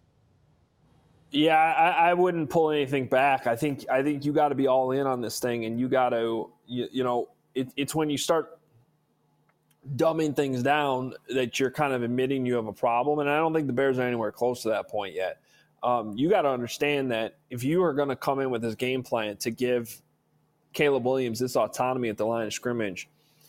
Yeah, I, I wouldn't pull anything back. I think I think you got to be all in on this thing, and you got to, you, you know, it, it's when you start dumbing things down that you're kind of admitting you have a problem, and I don't think the Bears are anywhere close to that point yet. Um, you got to understand that if you are going to come in with this game plan to give Caleb Williams this autonomy at the line of scrimmage,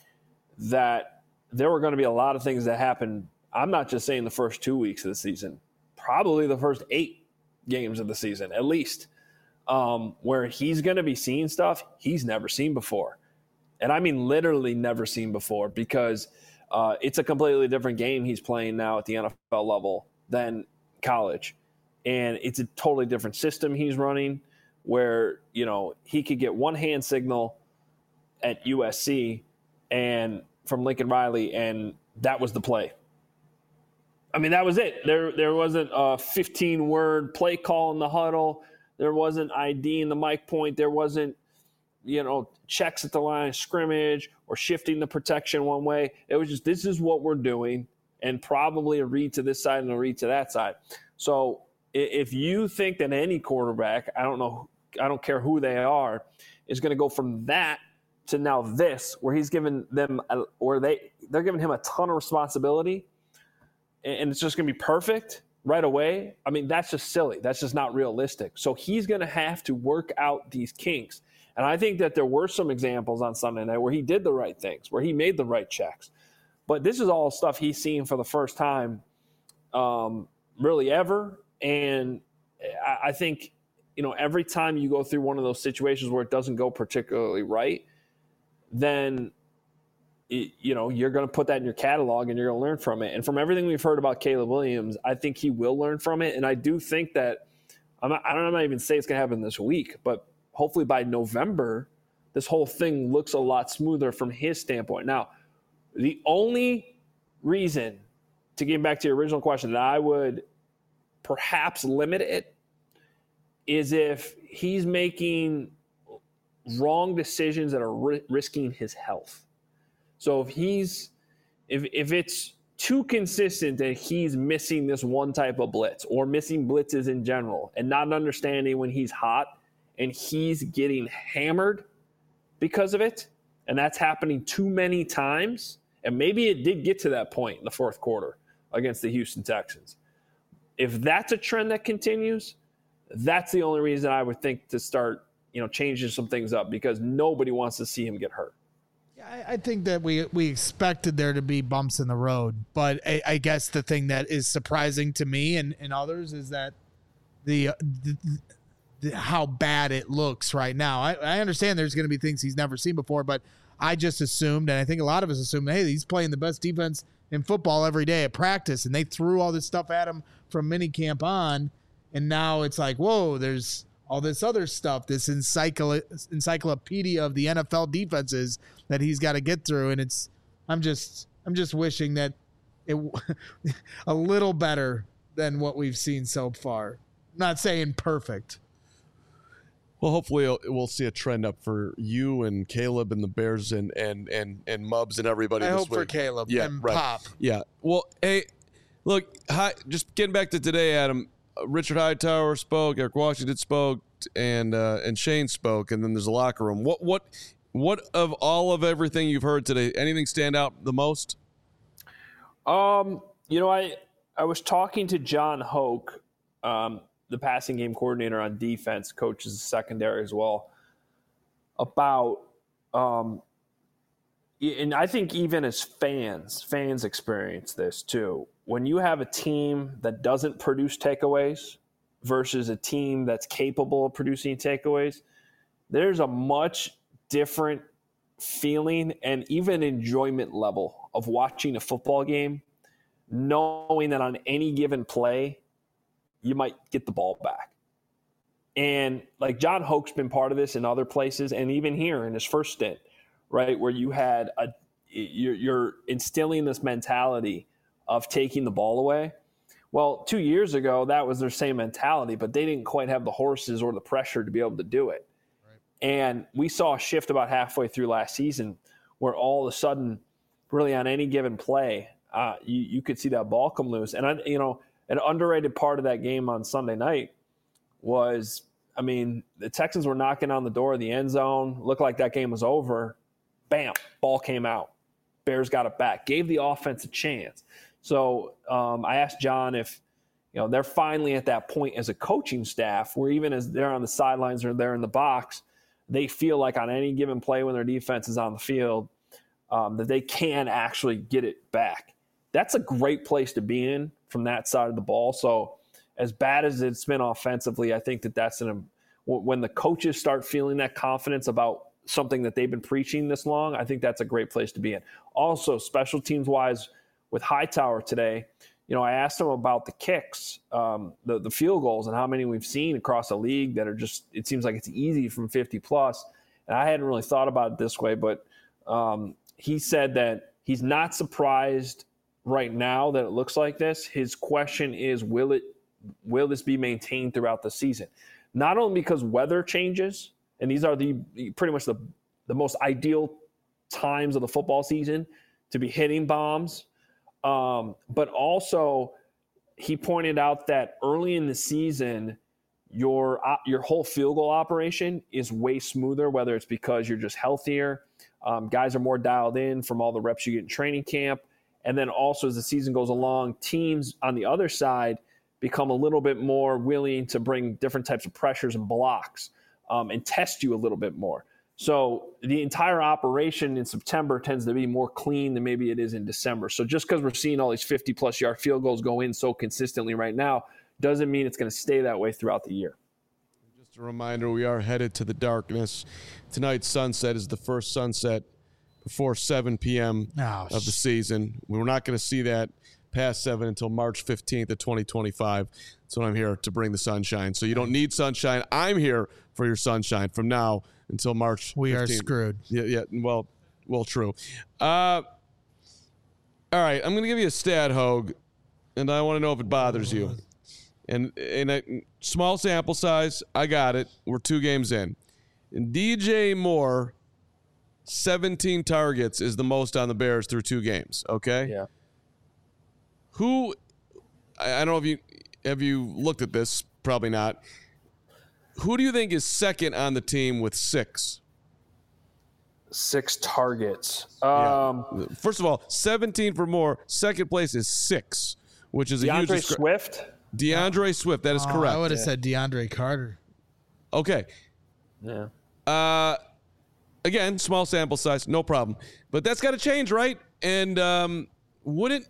that there were going to be a lot of things that happened. I'm not just saying the first two weeks of the season, probably the first eight games of the season, at least, um, where he's going to be seeing stuff he's never seen before. And I mean literally never seen before, because uh, it's a completely different game he's playing now at the N F L level than college. And it's a totally different system he's running where, you know, he could get one hand signal at U S C and from Lincoln Riley, and that was the play. I mean, that was it. There there wasn't a fifteen-word play call in the huddle. There wasn't I D in the mic point. There wasn't, you know, checks at the line of scrimmage or shifting the protection one way. It was just, this is what we're doing, and probably a read to this side and a read to that side. So if you think that any quarterback, I don't know, I don't care who they are, is going to go from that to now this, where he's given them, a, or they, they're giving him a ton of responsibility, and it's just going to be perfect right away. I mean, that's just silly. That's just not realistic. So he's going to have to work out these kinks. And I think that there were some examples on Sunday night where he did the right things, where he made the right checks. But this is all stuff he's seen for the first time, um, really ever. And I, I think you know, every time you go through one of those situations where it doesn't go particularly right, then, it, you know, you're going to put that in your catalog and you're going to learn from it. And from everything we've heard about Caleb Williams, I think he will learn from it. And I do think that, I'm not, I don't know, I'm not even say it's going to happen this week, but hopefully by November, this whole thing looks a lot smoother from his standpoint. Now, the only reason, to get back to your original question, that I would perhaps limit it is if he's making wrong decisions that are ri- risking his health. So if he's if if it's too consistent that he's missing this one type of blitz or missing blitzes in general and not understanding when he's hot and he's getting hammered because of it, and that's happening too many times, and maybe it did get to that point in the fourth quarter against the Houston Texans. If that's a trend that continues, that's the only reason I would think to start, you know, changing some things up, because nobody wants to see him get hurt. Yeah, I, I think that we we expected there to be bumps in the road, but I, I guess the thing that is surprising to me and, and others is that the, the, the how bad it looks right now. I, I understand there's going to be things he's never seen before, but I just assumed, and I think a lot of us assumed, hey, he's playing the best defense in football every day at practice, and they threw all this stuff at him from minicamp on, and now it's like, whoa, there's all this other stuff, this encycl- encyclopedia of the N F L defenses that he's got to get through, and it's I'm just I'm just wishing that it a little better than what we've seen so far. I'm not saying perfect. Well, hopefully we'll see a trend up for you and Caleb and the Bears and and and and Mubs and everybody. I this hope week. for Caleb yeah, and right. Pop. Yeah. Well, hey, look, hi, just getting back to today, Adam. Uh, Richard Hightower spoke, Eric Washington spoke, and uh, and Shane spoke, and then there's a locker room. What what what of all of everything you've heard today? Anything stand out the most? Um, you know, I I was talking to John Hoke, um, the passing game coordinator on defense, coaches the secondary as well, about, um, and I think even as fans, fans experience this too. When you have a team that doesn't produce takeaways versus a team that's capable of producing takeaways, there's a much different feeling and even enjoyment level of watching a football game, knowing that on any given play, you might get the ball back. And like John Hoke's been part of this in other places, and even here in his first stint, right, where you had a you're, you're instilling this mentality of taking the ball away. Well, two years ago, that was their same mentality, but they didn't quite have the horses or the pressure to be able to do it. Right. And we saw a shift about halfway through last season where all of a sudden, really on any given play, uh, you, you could see that ball come loose. And, I, you know, an underrated part of that game on Sunday night was, I mean, the Texans were knocking on the door of the end zone, looked like that game was over. Bam, ball came out. Bears got it back, gave the offense a chance. So um, I asked John if, you know, they're finally at that point as a coaching staff where even as they're on the sidelines or they're in the box, they feel like on any given play when their defense is on the field, um, that they can actually get it back. That's a great place to be in from that side of the ball. So as bad as it's been offensively, I think that that's an when the coaches start feeling that confidence about something that they've been preaching this long, I think that's a great place to be in. Also, special teams wise, with Hightower today, you know, I asked him about the kicks, um, the, the field goals, and how many we've seen across the league that are just, it seems like it's easy from fifty plus. And I hadn't really thought about it this way, but um, he said that he's not surprised right now that it looks like this. His question is, will it, will this be maintained throughout the season? Not only because weather changes, and these are the pretty much the, the most ideal times of the football season to be hitting bombs, Um, but also he pointed out that early in the season, your uh, your whole field goal operation is way smoother, whether it's because you're just healthier, um, guys are more dialed in from all the reps you get in training camp. And then also as the season goes along, teams on the other side become a little bit more willing to bring different types of pressures and blocks um, and test you a little bit more. So the entire operation in September tends to be more clean than maybe it is in December. So just because we're seeing all these fifty-plus yard field goals go in so consistently right now doesn't mean it's going to stay that way throughout the year. Just a reminder, we are headed to the darkness. Tonight's sunset is the first sunset before seven p.m. Oh, of the season. We're not going to see that past seven until March fifteenth of twenty twenty-five. That's when I'm here to bring the sunshine. So you don't need sunshine. I'm here for your sunshine from now until March We fifteenth. are screwed. Yeah, yeah. Well, well, true. Uh, all right, I'm going to give you a stat, Hogue, and I want to know if it bothers you. And in a small sample size, I got it. We're two games in. And D J Moore, seventeen targets is the most on the Bears through two games, okay? Yeah. Who, I, I don't know if you, have you looked at this? Probably not. Who do you think is second on the team with six? Six targets. Um, Yeah. First of all, seventeen for Moore. Second place is six, which is a huge. DeAndre discre- Swift. DeAndre Swift. That is Oh, correct. I would have said DeAndre Carter. Okay. Yeah. Uh, again, small sample size, no problem. But that's got to change, right? And um, wouldn't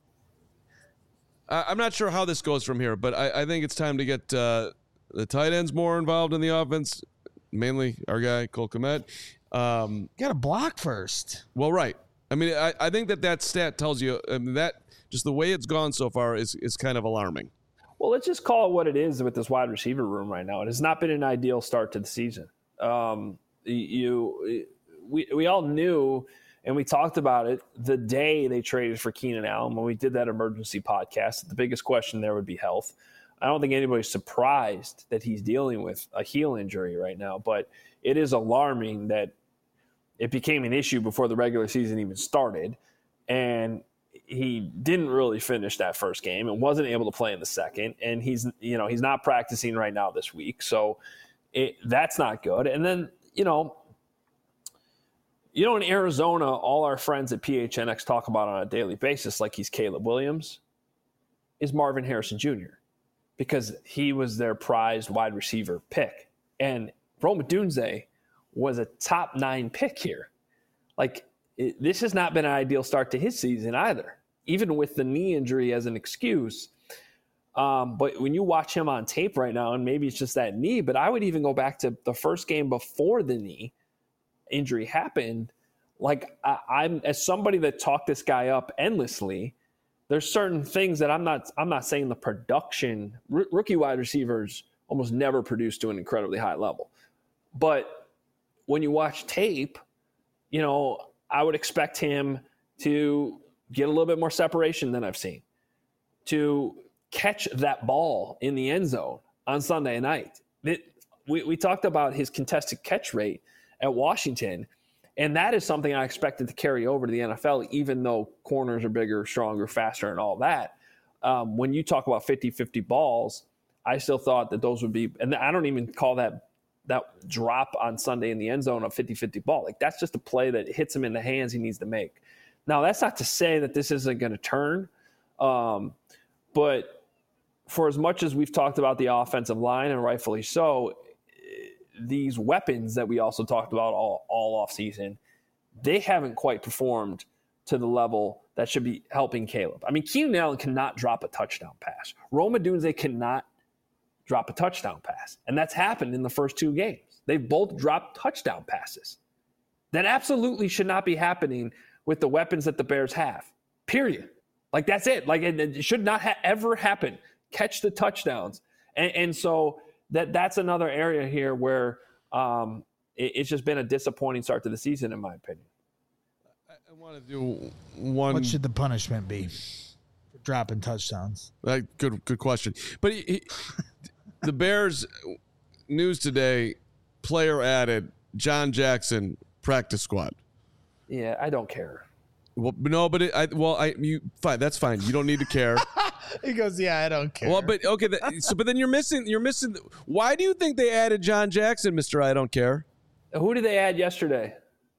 I, I'm not sure how this goes from here, but I, I think it's time to get uh, the tight ends more involved in the offense. Mainly our guy Cole Kmet. Um, Got to block first. well, right. I mean, I, I think that that stat tells you I mean, that just the way it's gone so far is is kind of alarming. Well, let's just call it what it is with this wide receiver room right now. It has not been an ideal start to the season. Um, you, we, we all knew, and we talked about it the day they traded for Keenan Allen when we did that emergency podcast. The biggest question there would be health. I don't think anybody's surprised that he's dealing with a heel injury right now, but it is alarming that it became an issue before the regular season even started, and he didn't really finish that first game and wasn't able to play in the second. And he's, you know, he's not practicing right now this week. So it, that's not good. And then, you know, you know, in Arizona, all our friends at P H N X talk about on a daily basis, like he's Caleb Williams, is Marvin Harrison Junior because he was their prized wide receiver pick. And Rome Odunze was a top nine pick here. Like, it, this has not been an ideal start to his season either, even with the knee injury as an excuse. Um, but when you watch him on tape right now, and maybe it's just that knee, but I would even go back to the first game before the knee injury happened. Like, I, I'm as somebody that talked this guy up endlessly, there's certain things that I'm not, I'm not saying the production, r- rookie wide receivers almost never produce to an incredibly high level. But when you watch tape, you know, I would expect him to get a little bit more separation than I've seen, to catch that ball in the end zone on Sunday night. It, we, we talked about his contested catch rate at Washington, and that is something I expected to carry over to the N F L, even though corners are bigger, stronger, faster, and all that. Um, when you talk about fifty-fifty balls, I still thought that those would be – and I don't even call that – that drop on Sunday in the end zone of fifty-fifty ball. Like, that's just a play that hits him in the hands he needs to make. Now, that's not to say that this isn't going to turn. Um, but for as much as we've talked about the offensive line, and rightfully so, these weapons that we also talked about all, all offseason, they haven't quite performed to the level that should be helping Caleb. I mean, Keenan Allen cannot drop a touchdown pass. Rome Odunze cannot drop a touchdown pass. And that's happened in the first two games. They've both dropped touchdown passes. That absolutely should not be happening with the weapons that the Bears have, period. Like, that's it. Like, it, it should not ha- ever happen. Catch the touchdowns. And, and so that that's another area here where um, it, it's just been a disappointing start to the season, in my opinion. I, I want to do one. What should the punishment be for dropping touchdowns? Uh, good, good question. But he, he, the Bears news today, player added, John Jackson, practice squad. Yeah, I don't care. Well, no, but it, I, well, I, you fine. That's fine. You don't need to care. He goes, yeah, I don't care. Well, but okay. That, so, but then you're missing. You're missing. Why do you think they added John Jackson, Mister I don't care? Who did they add yesterday?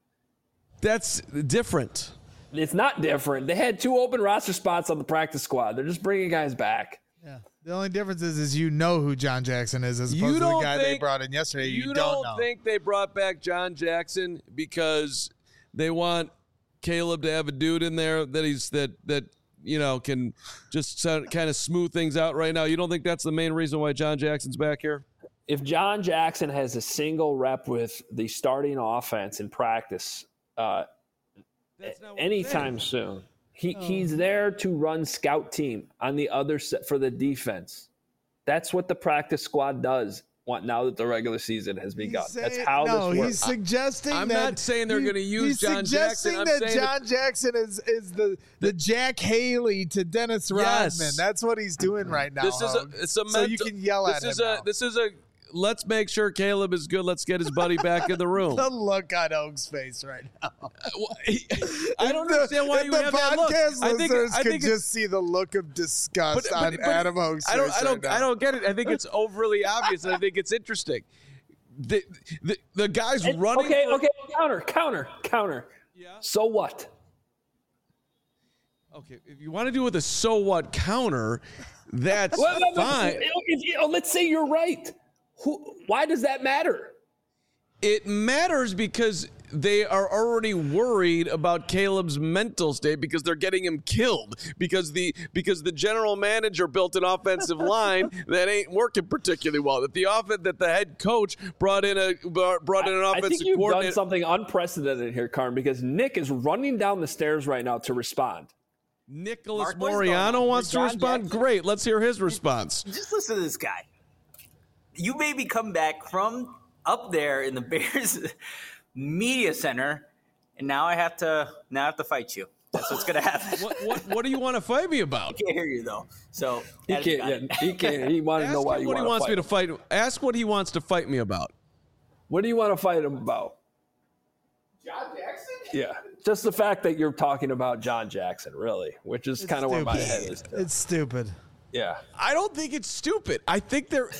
That's different. It's not different. They had two open roster spots on the practice squad. They're just bringing guys back. Yeah. The only difference is, is you know who John Jackson is as You opposed to the don't guy they think- brought in yesterday. You, You, don't, don't, know. think they brought back John Jackson because they want Caleb to have a dude in there that he's that that you know can just kind of smooth things out right now? You don't think that's the main reason why John Jackson's back here? if John Jackson has a single rep with the starting offense in practice uh, anytime soon, he, oh. he's there to run scout team on the other set for the defense. That's what the practice squad does now that the regular season has begun. Saying, That's how no, this works. he's suggesting I'm that not saying they're going to use John Jackson. He's I'm suggesting that saying John Jackson is, is the, the Jack Haley to Dennis Rodman. Yes. That's what he's doing right now. This is a, it's a so mental, you can yell at this is him a, now. This is a let's make sure Caleb is good. Let's get his buddy back in the room. The look on Oak's face right now. I don't understand why you the have that look. I think I I think could just see the look of disgust but, on but, but Adam Oak's I don't, face I don't, right now. I don't get it. I think it's overly obvious, and I think it's interesting. The the, the guy's and, running. Okay, for, okay, counter, counter, counter. Yeah. So what? Okay, if you want to do with a so what counter, that's well, fine. If, if, let's say you're right. Who? Why does that matter? It matters because they are already worried about Caleb's mental state because they're getting him killed because the because the general manager built an offensive line that ain't working particularly well. That the offense that the head coach brought in a brought in an offensive I think you've coordinator. done something unprecedented here, Carm, because Nick is running down the stairs right now to respond. Nicholas Mark, Moriano wants to John respond. Jackson. Great, let's hear his response. Just listen to this guy. You made me come back from up there in the Bears media center, and now I have to now I have to fight you. That's what's gonna happen. what, what what do you want to fight me about? I can't hear you though. So he can't. Yeah, he can't. He wanted to know why him you what he want wants to me to fight. Ask what he wants to fight me about. What do you want to fight him about? John Jackson? Yeah, just the fact that you're talking about John Jackson, really, which is kind of where my head is. It's stupid. Yeah, I don't think it's stupid. I think they're.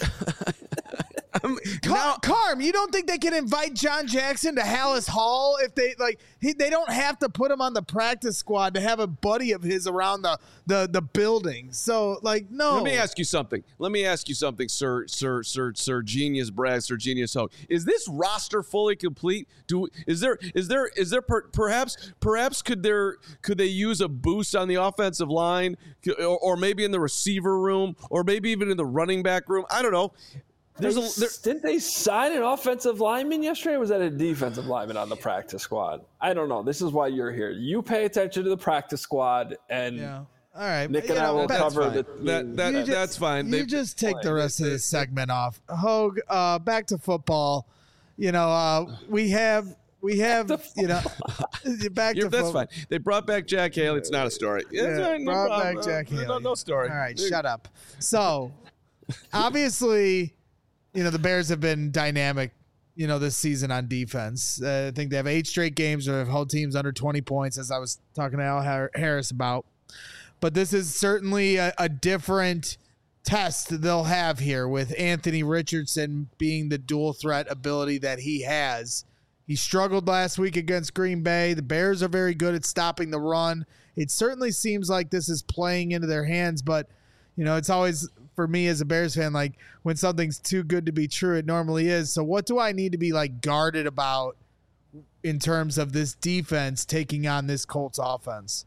Car- now, Carm, you don't think they can invite John Jackson to Hallis Hall if they like? He, they don't have to put him on the practice squad to have a buddy of his around the the the building. So, like, no. Let me ask you something. Let me ask you something, Sir, Sir, Sir, Sir Genius Brad, Sir Genius Hope. Is this roster fully complete? Do is there is there is there per, perhaps perhaps could there could they use a boost on the offensive line, or, or maybe in the receiver room, or maybe even in the running back room? I don't know. There's a, there, didn't they sign an offensive lineman yesterday, or was that a defensive lineman on the practice squad? I don't know. This is why you're here. You pay attention to the practice squad, and yeah. All right, Nick you and I know, will cover fine. the that. that just, that's fine. You they, just take the rest of this segment off. Hogue, uh, back to football. You know, uh, we have we have you know back to that's fo- fine. They brought back Jack Haley. It's not a story. Yeah, It's fine, no brought problem. back Jack Uh, Haley. No, no story. All right, shut up. So, obviously, you know, the Bears have been dynamic, you know, this season on defense. Uh, I think they have eight straight games where they've held teams under twenty points, as I was talking to Al Har- Harris about. But this is certainly a, a different test they'll have here with Anthony Richardson being the dual threat ability that he has. He struggled last week against Green Bay. The Bears are very good at stopping the run. It certainly seems like this is playing into their hands, but, you know, it's always, for me as a Bears fan, like when something's too good to be true, it normally is. So what do I need to be like guarded about in terms of this defense taking on this Colts offense?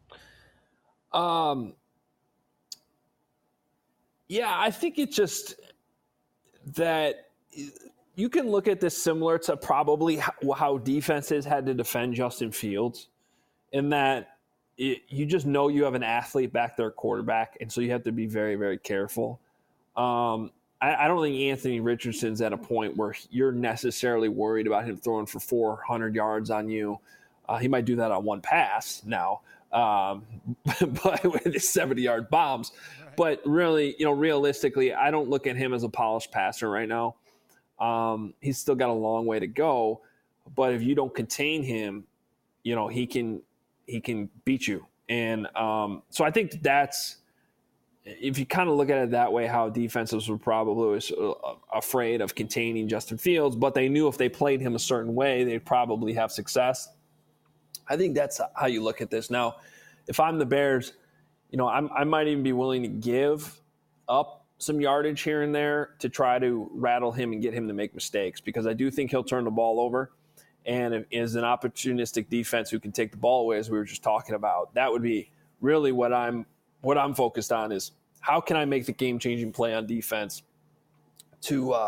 Um, yeah, I think it's just that you can look at this similar to probably how, how defenses had to defend Justin Fields, in that it, you just know you have an athlete back there, quarterback, and so you have to be very, very careful. Um, I, I don't think Anthony Richardson's at a point where you're necessarily worried about him throwing for four hundred yards on you. Uh, he might do that on one pass now, um, but with his seventy-yard bombs. Right. But really, you know, realistically, I don't look at him as a polished passer right now. Um, he's still got a long way to go, but if you don't contain him, you know, he can he can beat you. And um, so I think that's, if you kind of look at it that way, how defenses were probably afraid of containing Justin Fields, but they knew if they played him a certain way, they'd probably have success. I think that's how you look at this. Now, if I'm the Bears, you know, I'm, I might even be willing to give up some yardage here and there to try to rattle him and get him to make mistakes, because I do think he'll turn the ball over. And if is an opportunistic defense who can take the ball away, as we were just talking about, that would be really what I'm what I'm focused on, is how can I make the game-changing play on defense to uh,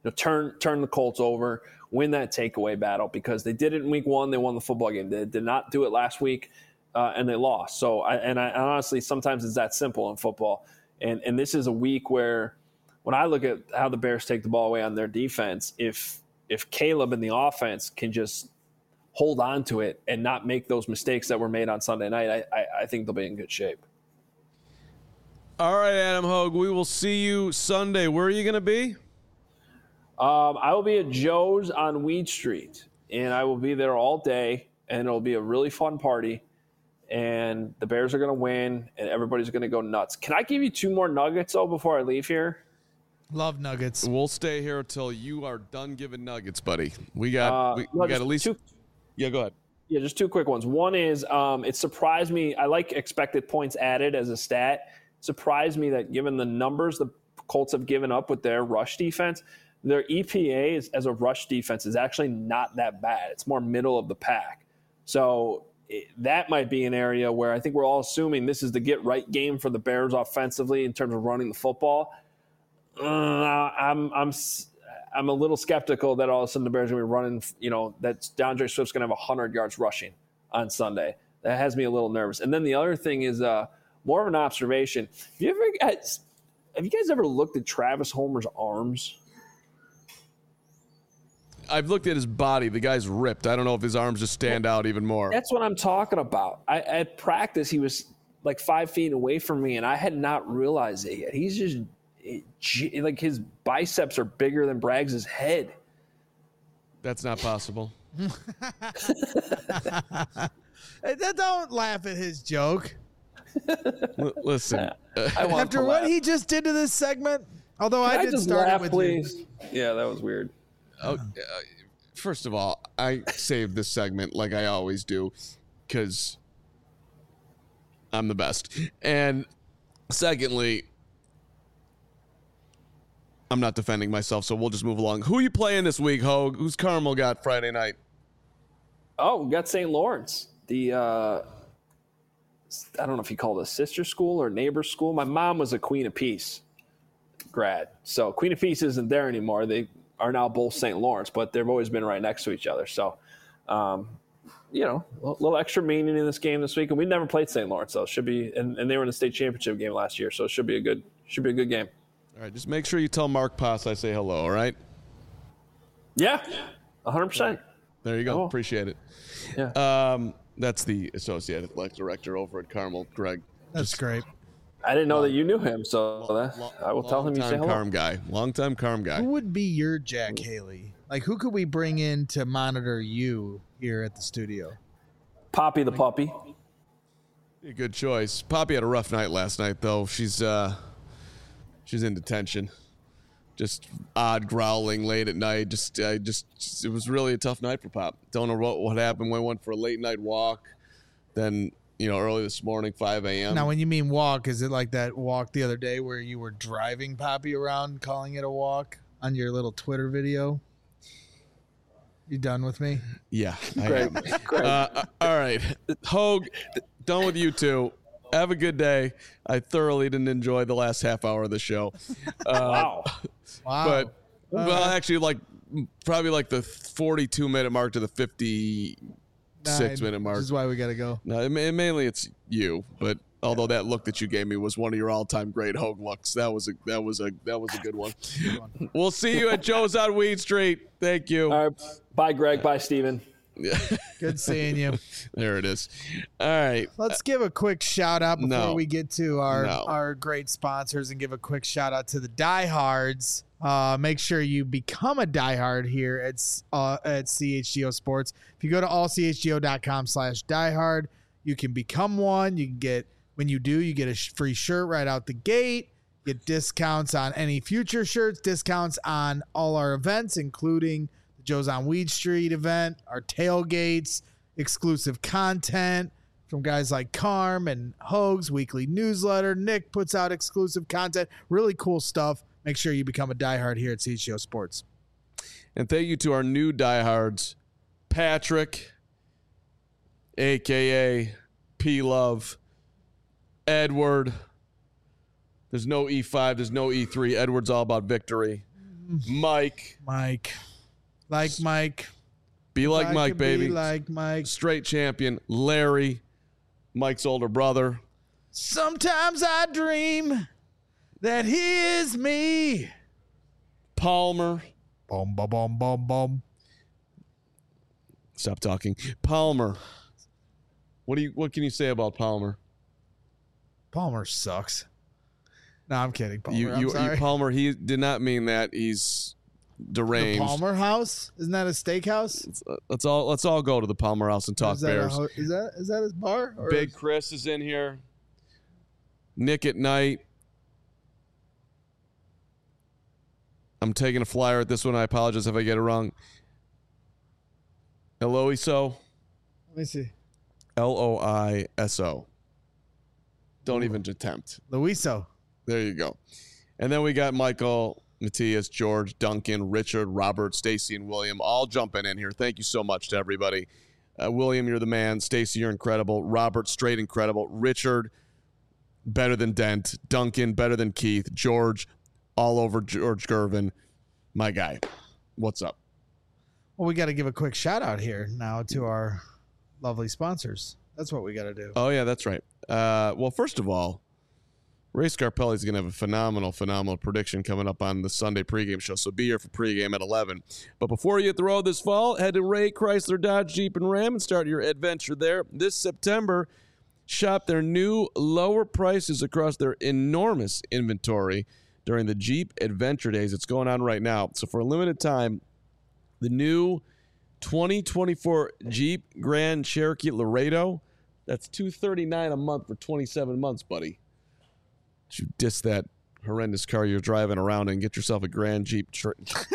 know, turn turn the Colts over, win that takeaway battle, because they did it in week one. They won the football game. They did not do it last week, uh, and they lost. So, I, and I and honestly, sometimes it's that simple in football. And and this is a week where, when I look at how the Bears take the ball away on their defense, if if Caleb and the offense can just hold on to it and not make those mistakes that were made on Sunday night, I, I, I think they'll be in good shape. All right, Adam Hogue, we will see you Sunday. Where are you going to be? Um, I will be at Joe's on Weed Street, and I will be there all day, and it'll be a really fun party, and the Bears are going to win, and everybody's going to go nuts. Can I give you two more nuggets, though, before I leave here? Love nuggets. We'll stay here until you are done giving nuggets, buddy. We got Uh, we, no, we got just at least two- Yeah, go ahead. Yeah, just two quick ones. One is um, it surprised me. I like expected points added as a stat. It surprised me that given the numbers the Colts have given up with their rush defense, their E P A is, as a rush defense is actually not that bad. It's more middle of the pack. So it, that might be an area where I think we're all assuming this is the get-right game for the Bears offensively in terms of running the football. Uh, I'm I'm I'm a little skeptical that all of a sudden the Bears are going to be running, you know, that DeAndre Swift's going to have one hundred yards rushing on Sunday. That has me a little nervous. And then the other thing is uh, more of an observation. Have you ever guys, have you guys ever looked at Travis Homer's arms? I've looked at his body. The guy's ripped. I don't know if his arms just stand out even more. That's what I'm talking about. I, at practice, he was like five feet away from me, and I had not realized it yet. He's just it, like his biceps are bigger than Braggs' head. That's not possible. Don't laugh at his joke. L- listen, uh, I want After to what laugh. he just did to this segment, although Can I I did just start laugh, it with please? you. Yeah, that was weird. oh, uh, first of all, I saved this segment like I always do because I'm the best. And secondly, I'm not defending myself, so we'll just move along. Who are you playing this week, Hogue? Who's Carmel got Friday night? Oh, we got Saint Lawrence. The uh, I don't know if you call it a sister school or neighbor school. My mom was a Queen of Peace grad, so Queen of Peace isn't there anymore. They are now both Saint Lawrence, but they've always been right next to each other. So, um, you know, a little extra meaning in this game this week. And we never played Saint Lawrence, so it should be. And, and they were in the state championship game last year, so it should be a good should be a good game. All right, just make sure you tell Mark Poss I say hello, all right? Yeah, one hundred percent. There you go. Oh. Appreciate it. Yeah. Um, that's the associate athletic director over at Carmel, Greg. That's great. I didn't know that you knew him, so that, I will tell him you say Long-time hello. Carm guy. Long-time Carm guy. Who would be your Jack Haley? Like, who could we bring in to monitor you here at the studio? Poppy the puppy. A good choice. Poppy had a rough night last night, though. She's uh, she's in detention. Just odd growling late at night. Just, I just, it was really a tough night for Pop. Don't know what, what happened. We went for a late night walk. Then, you know, early this morning, five a.m. Now, when you mean walk, is it like that walk the other day where you were driving Poppy around, calling it a walk on your little Twitter video? You done with me? Yeah. I Greg, am. Greg. Uh, all right. Hogue, done with you two. Have a good day. I thoroughly didn't enjoy the last half hour of the show. Uh, Wow. Wow. But, well, actually, like, probably like the forty-two minute mark to the fifty-six Nine, minute mark. This is why we got to go. No, it, ma- mainly it's you, but although that look that you gave me was one of your all-time great Hogue looks, that was a that was a that was a good one. We'll see you at Joe's on Weed Street. Thank you. All right. Bye, Greg. Bye, Steven. Good seeing you. There it is. All right. Let's give a quick shout out before No. we get to our No. our great sponsors and give a quick shout out to the diehards. Uh, make sure you become a diehard here at uh, at C H G O Sports. If you go to all c h g o dot com slash diehard, you can become one. You can get when you do, you get a sh- free shirt right out the gate. Get discounts on any future shirts, discounts on all our events, including the Joe's on Weed Street event, our tailgates, exclusive content from guys like Carm and Hogue's weekly newsletter. Nick puts out exclusive content, really cool stuff. Make sure you become a diehard here at C H G O Sports. And thank you to our new diehards, Patrick, a k a. P-Love, Edward. There's no E five. There's no E three. Edward's all about victory. Mike. Mike. Like Mike. Be like I Mike, could baby. Be like Mike. Straight champion. Larry. Mike's older brother. Sometimes I dream that he is me. Palmer. Boom, boom, boom, boom, boom. Stop talking. Palmer. What do you? What can you say about Palmer? Palmer sucks. No, I'm kidding, Palmer. You, I'm you, sorry. you, Palmer. He did not mean that. He's deranged. The Palmer House? Isn't that a steakhouse? Let's, uh, let's all let's all go to the Palmer House and talk is that Bears. A, ho- is that is that his bar? Or Big is- Chris is in here. Nick at night. I'm taking a flyer at this one. I apologize if I get it wrong. Eloiso. Let me see. L O I S O. Don't even attempt. Luiso. There you go. And then we got Michael, Matthias, George, Duncan, Richard, Robert, Stacy, and William all jumping in here. Thank you so much to everybody. Uh, William, you're the man. Stacy, you're incredible. Robert, straight incredible. Richard, better than Dent. Duncan, better than Keith. George, all over George Gervin. My guy. What's up? Well, we got to give a quick shout out here now to our lovely sponsors. That's what we got to do. Oh, yeah, that's right. Uh, well, first of all, Ray Scarpelli is going to have a phenomenal, phenomenal prediction coming up on the Sunday pregame show, so be here for pregame at eleven. But before you hit the road this fall, head to Ray Chrysler Dodge Jeep and Ram and start your adventure there. This September, shop their new lower prices across their enormous inventory during the Jeep Adventure Days. It's going on right now. So for a limited time, the new twenty twenty-four Jeep Grand Cherokee Laredo, that's two hundred thirty-nine dollars a month for twenty-seven months, buddy. You diss that horrendous car you're driving around and get yourself a Grand Jeep. Tr-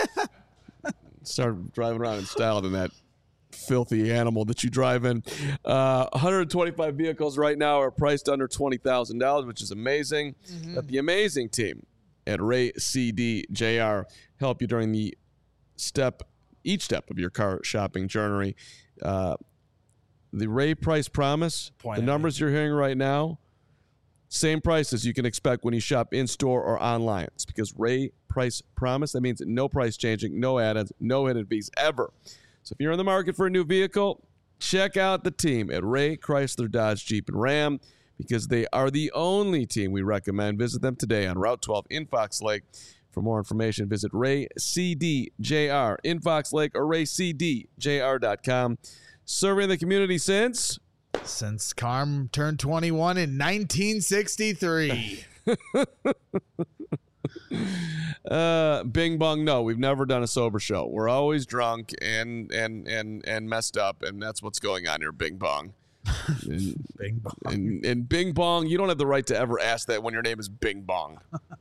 Start driving around in style than that filthy animal that you drive in. Uh, one hundred twenty-five vehicles right now are priced under twenty thousand dollars, which is amazing. Mm-hmm. Let the amazing team at Ray C D J R help you during the step, each step of your car shopping journey. Uh, the Ray price promise, Point the numbers you're hearing right now, same prices you can expect when you shop in-store or online. It's because Ray price promise. That means no price changing, no add-ons, no hidden fees ever. So if you're in the market for a new vehicle, check out the team at Ray Chrysler Dodge Jeep and Ram because they are the only team we recommend. Visit them today on Route twelve in Fox Lake. For more information, visit Ray C D J R in Fox Lake or ray c d j r dot com. Serving the community since... Since Carm turned twenty-one in nineteen sixty-three. uh, Bing bong, no, we've never done a sober show. We're always drunk and and and and messed up, and that's what's going on here. Bing bong. And, Bing bong. And, and Bing bong, you don't have the right to ever ask that when your name is Bing bong.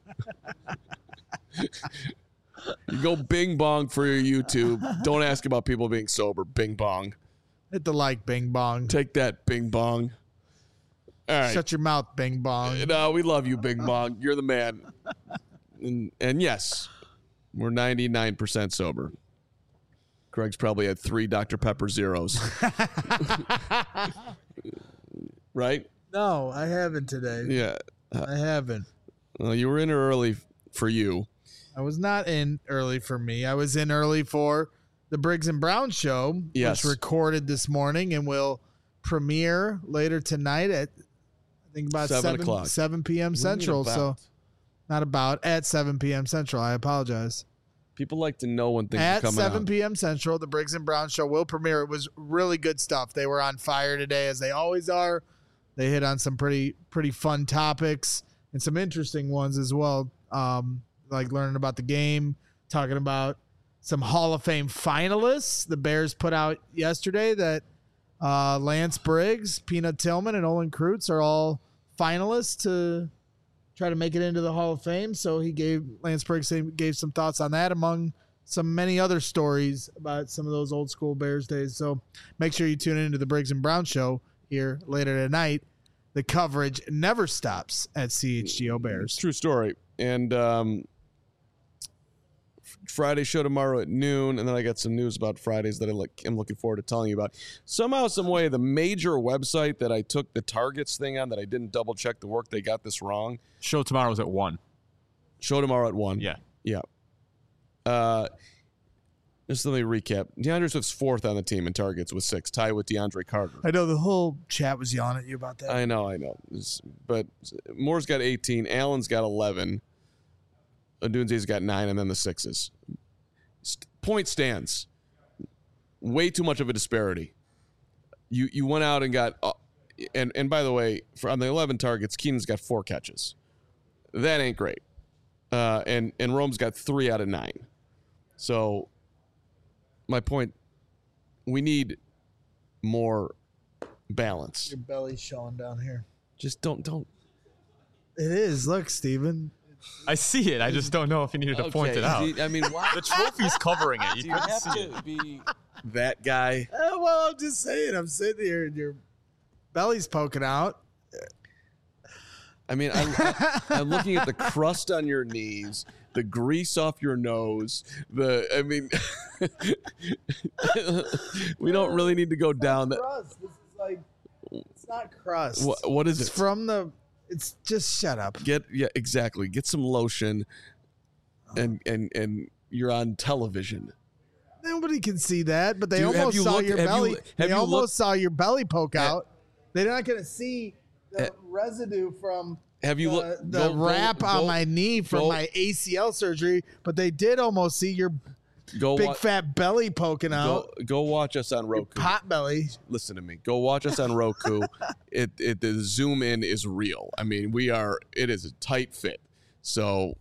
You go Bing bong for your YouTube. Don't ask about people being sober. Bing bong. Hit the like, Bing bong. Take that, Bing bong. All right. Shut your mouth, Bing bong. No, we love you, Bing bong. You're the man. And, and yes, we're ninety-nine percent sober. Craig's probably had three Doctor Pepper zeros. Right? No, I haven't today. Yeah. I haven't. Well, you were in early for you. I was not in early for me. I was in early for the Briggs and Brown show, Yes. which recorded this morning and will premiere later tonight at I think about Seven seven o'clock. seven p.m. What do you mean Central. So about? not about at seven p.m. Central. I apologize. People like to know when things are At coming seven out. p.m. Central, the Briggs and Brown show will premiere. It was really good stuff. They were on fire today, as they always are. They hit on some pretty pretty fun topics and some interesting ones as well, um, like learning about the game, talking about some Hall of Fame finalists. The Bears put out yesterday that uh, Lance Briggs, Peanut Tillman, and Olin Kreutz are all finalists to try to make it into the Hall of Fame. So he gave Lance Briggs gave some thoughts on that, among some many other stories about some of those old school Bears days. So make sure you tune into the Briggs and Brown show here later tonight. The coverage never stops at C H G O Bears. True story. And um, Friday show tomorrow at noon, and then I got some news about Fridays that I look, I'm looking forward to telling you about. Somehow, some way, the major website that I took the targets thing on that I didn't double check the work, they got this wrong. Show tomorrow's at one. Show tomorrow at one. Yeah. Yeah. Uh, just let me recap. DeAndre Swift's fourth on the team in targets with six, tied with DeAndre Carter. I know the whole chat was yelling at you about that. I know, I know. But Moore's got eighteen. Allen's got eleven. Odunze's got nine, and then the sixes. Point stands. Way too much of a disparity. You you went out and got, uh, and and by the way, for on the eleven targets, Keenan's got four catches. That ain't great. Uh, and and Rome's got three out of nine. So my point, we need more balance. Your belly's showing down here. Just don't don't. It is. Look, Steven. I see it. I just don't know if you needed to point it out. I mean, why? The trophy's covering it. You Do you couldn't have see to it. be that guy? Uh, well, I'm just saying. I'm sitting here and your belly's poking out. I mean, I'm, I'm looking at the crust on your knees, the grease off your nose. The I mean, we don't really need to go down that. Crust. This is like it's not crust. What, what is It's it? from the. It's just shut up. Get yeah, exactly. Get some lotion, and and and you're on television. Nobody can see that, but they Do you- have almost you saw looked- your have you- belly. have they you almost looked- saw your belly poke out. They're not going to see the Eh. residue from Have you the, looked the wrap on my knee from go- my A C L surgery, but they did almost see your go big wa- fat belly poking go, out. go watch us on Roku. Pot belly. Listen to me. Go watch us on Roku. it it the zoom in is real. I mean, we are. It is a tight fit. So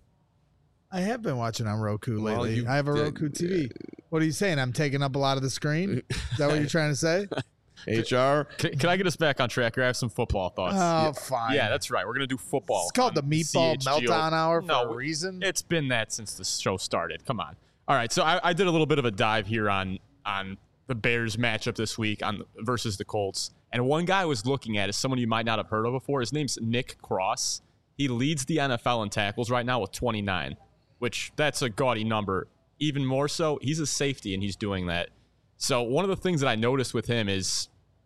I have been watching on Roku Well, lately. you I have a did- Roku T V. What are you saying? I'm taking up a lot of the screen? Is that what you're trying to say? H R. Can, can I get us back on track here? I have some football thoughts. Oh, fine. Yeah, that's right. We're going to do football. It's called the on Meatball C H G O. Meltdown Hour for No, a reason. It's been that since the show started. Come on. All right, so I, I did a little bit of a dive here on on the Bears matchup this week on versus the Colts, and one guy I was looking at is someone you might not have heard of before. His name's Nick Cross. He leads the N F L in tackles right now with twenty-nine, which that's a gaudy number. Even more so, he's a safety and he's doing that. So one of the things that I noticed with him is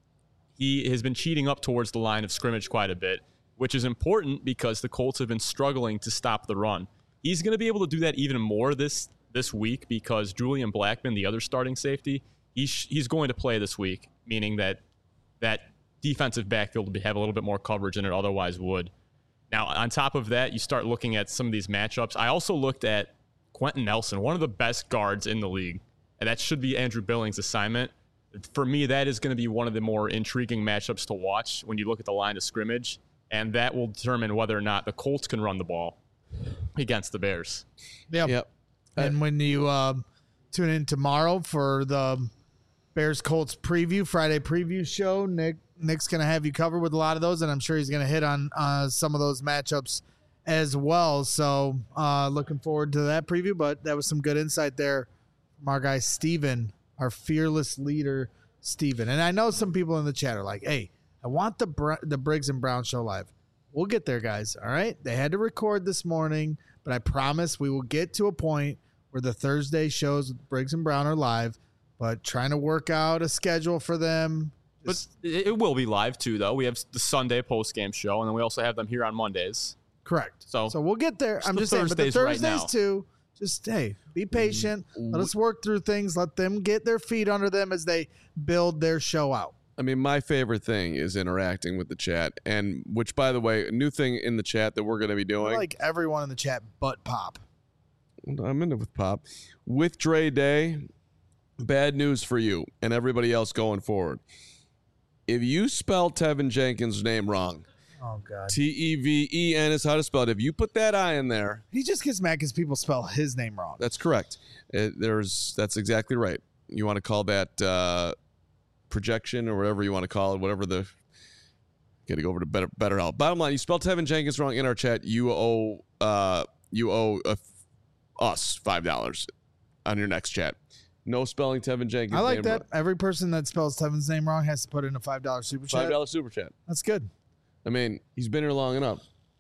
he has been cheating up towards the line of scrimmage quite a bit, which is important because the Colts have been struggling to stop the run. He's going to be able to do that even more this this week because Julian Blackmon, the other starting safety, he's he's going to play this week, meaning that that defensive backfield will have a little bit more coverage than it otherwise would. Now, on top of that, you start looking at some of these matchups. I also looked at Quentin Nelson, one of the best guards in the league, and that should be Andrew Billings' assignment. For me, that is going to be one of the more intriguing matchups to watch when you look at the line of scrimmage, and that will determine whether or not the Colts can run the ball against the Bears. Yep. Yep. And when you uh, tune in tomorrow for the Bears Colts preview, Friday preview show, Nick Nick's going to have you covered with a lot of those, and I'm sure he's going to hit on uh, some of those matchups as well. So uh, looking forward to that preview, but that was some good insight there from our guy Steven, our fearless leader, Steven. And I know some people in the chat are like, hey, I want the Br- the Briggs and Brown show live. We'll get there, guys. All right. They had to record this morning, but I promise we will get to a point where the Thursday shows with Briggs and Brown are live, but trying to work out a schedule for them. But it it will be live too, though. We have the Sunday post-game show, and then we also have them here on Mondays. Correct. So- so we'll get there. It's I'm the just saying, but the Thursdays right Thursdays now. too, just, hey, be patient. Let us work through things. Let them get their feet under them as they build their show out. I mean, my favorite thing is interacting with the chat, and which, by the way, a new thing in the chat that we're going to be I doing. like everyone in the chat but Pop. I'm in it with Pop. With Dre Day, bad news for you and everybody else going forward. If you spell Tevin Jenkins' name wrong, Oh, God. T E V E N is how to spell it. If you put that I in there, He just gets mad because people spell his name wrong. that's correct. It, there's that's exactly right. You want to call that uh, projection or whatever you want to call it, whatever the. Got to go over to better better help. Bottom line, you spelled Tevin Jenkins wrong in our chat. You owe uh, you owe uh, us five dollars on your next chat. No spelling Tevin Jenkins. I like name that. wrong. Every person that spells Tevin's name wrong has to put in a five dollar super chat. Five dollar super chat. That's good. I mean, he's been here long enough.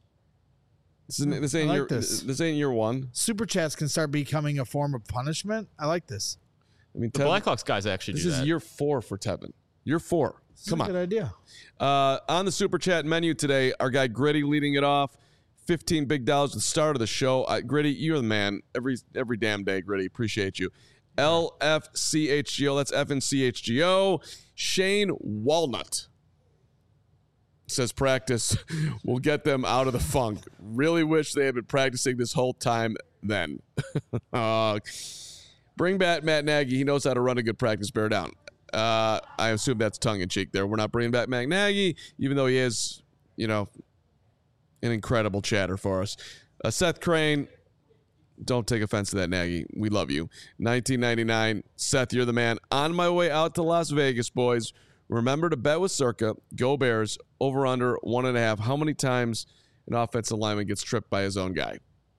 This, isn't, this ain't I like your this. this ain't year one. Super chats can start becoming a form of punishment. I like this. I mean, The Tevin, Blackhawks guys actually this do is that. year four for Tevin. Year four. This is Come a on. good idea. Uh, on the super chat menu today, our guy Gritty leading it off. fifteen big dollars at the start of the show. Uh, Gritty, you're the man. Every every damn day, Gritty. Appreciate you. L F C H G O. That's F N C H G O. Shane Walnut says practice will get them out of the funk. Really wish they had been practicing this whole time then. uh, bring back Matt Nagy. He knows how to run a good practice. Bear down. Uh, I assume that's tongue-in-cheek there. We're not bringing back Matt Nagy, even though he is, you know, an incredible chatter for us. Uh, Seth Crane, don't take offense to that, Nagy. We love you. nineteen ninety-nine. Seth, you're the man. On my way out to Las Vegas, boys. Remember to bet with Circa. Go Bears. Over under one and a half. How many times an offensive lineman gets tripped by his own guy?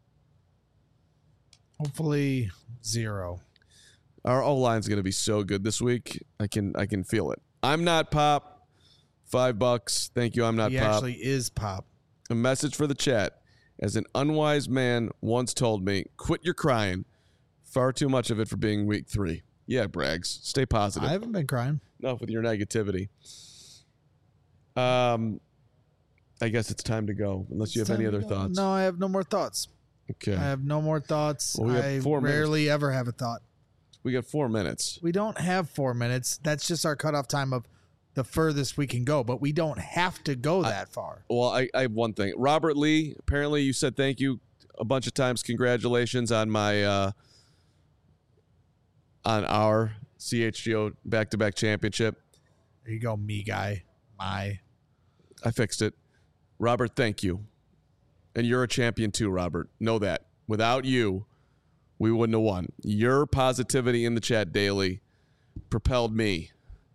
Hopefully zero. Our O-line's going to be so good this week. I can I can feel it. I'm not Pop. Five bucks. Thank you. I'm not he Pop. He actually is Pop. A message for the chat. As an unwise man once told me, quit your crying. Far too much of it for being week three. Yeah, Braggs. Stay positive. I haven't been crying. Enough with your negativity. Um, I guess it's time to go, unless you It's have any time other to go. thoughts. No, I have no more thoughts. Okay. I have no more thoughts. Well, we have I four minutes. rarely ever have a thought. We got four minutes. We don't have four minutes. That's just our cutoff time of the furthest we can go, but we don't have to go that I, far. Well, I, I have one thing. Robert Lee, apparently you said thank you a bunch of times. Congratulations on my uh, on our C H G O back-to-back championship. There you go, me guy. My. I fixed it. Robert, thank you. And you're a champion too, Robert. Know that. Without you, we wouldn't have won. Your positivity in the chat daily propelled me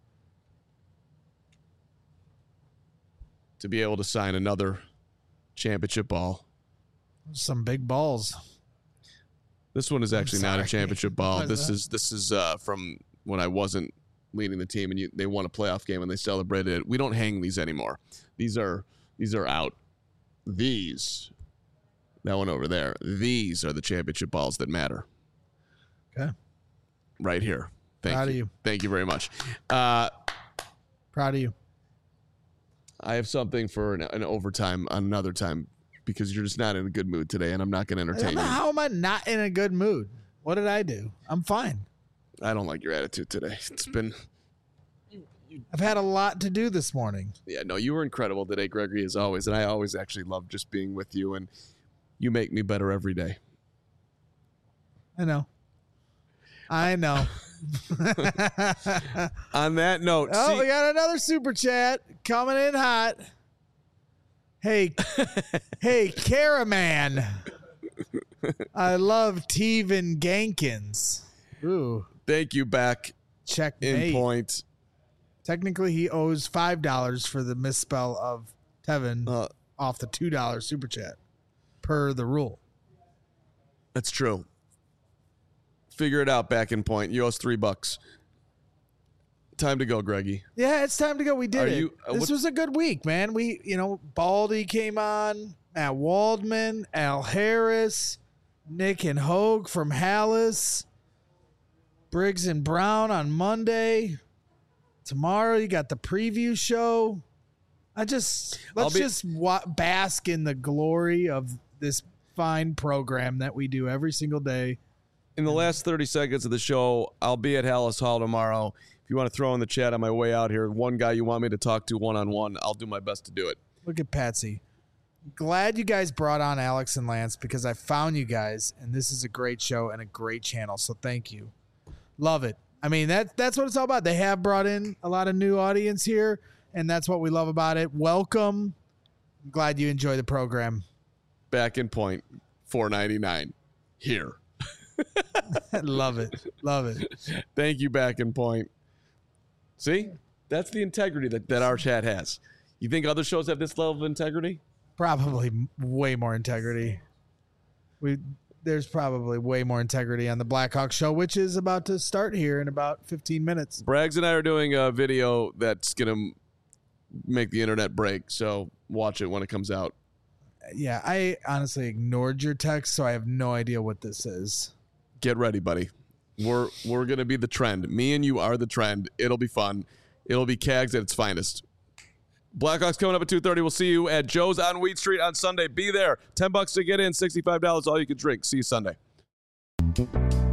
to be able to sign another championship ball. Some big balls. This one is actually not a championship ball. What is This that? is this is uh, from when I wasn't leading the team and you, they won a playoff game and they celebrated it. We don't hang these anymore. These are these are out. These, that one over there. These are the championship balls that matter. Okay. Right here. Thank Proud you. of you. Thank you very much. Uh, Proud of you. I have something for an, an overtime on another time because you're just not in a good mood today, and I'm not going to entertain you. How am I not in a good mood? What did I do? I'm fine. I don't like your attitude today. It's been, I've had a lot to do this morning. yeah, no, you were incredible today, Gregory, as always, and I always actually love just being with you, and you make me better every day. I know. I know. On that note, Oh, see, we got another super chat coming in hot. Hey, hey, Caraman. I love Tevin Gankins. Ooh, thank you back in checkmate. point. Technically, he owes five dollars for the misspell of Tevin Uh, off the two dollar super chat, per the rule. That's true. Figure it out, back in point. You owe us three bucks. Time to go, Greggy. Yeah, it's time to go. We did Are it. you- uh, this what- was a good week, man. We, you know, Baldy came on, Matt Waldman, Al Harris, Nick and Hogue from Hallis, Briggs and Brown on Monday. Tomorrow you got the preview show. I just let's be- just wa- bask in the glory of this fine program that we do every single day. In the last thirty seconds of the show, I'll be at Hallis Hall tomorrow. If you want to throw in the chat on my way out here, one guy you want me to talk to one-on-one, I'll do my best to do it. Look at Patsy. Glad you guys brought on Alex and Lance because I found you guys, and this is a great show and a great channel. So thank you. Love it. I mean, that that's what it's all about. They have brought in a lot of new audience here, and that's what we love about it. Welcome. I'm glad you enjoy the program. Back in point, four ninety-nine here. Love it. Love it. Thank you, back in point. See? That's the integrity that, that our chat has. You think other shows have this level of integrity? Probably m- way more integrity. We there's probably way more integrity on the Blackhawk show, which is about to start here in about fifteen minutes. Braggs and I are doing a video that's going to make the internet break, so watch it when it comes out. Yeah, I honestly ignored your text, so I have no idea what this is. Get ready, buddy. We're we're going to be the trend. Me and you are the trend. It'll be fun. It'll be Cags at its finest. Blackhawks coming up at two thirty. We'll see you at Joe's on Wheat Street on Sunday. Be there. ten bucks to get in, sixty-five dollars all you can drink. See you Sunday.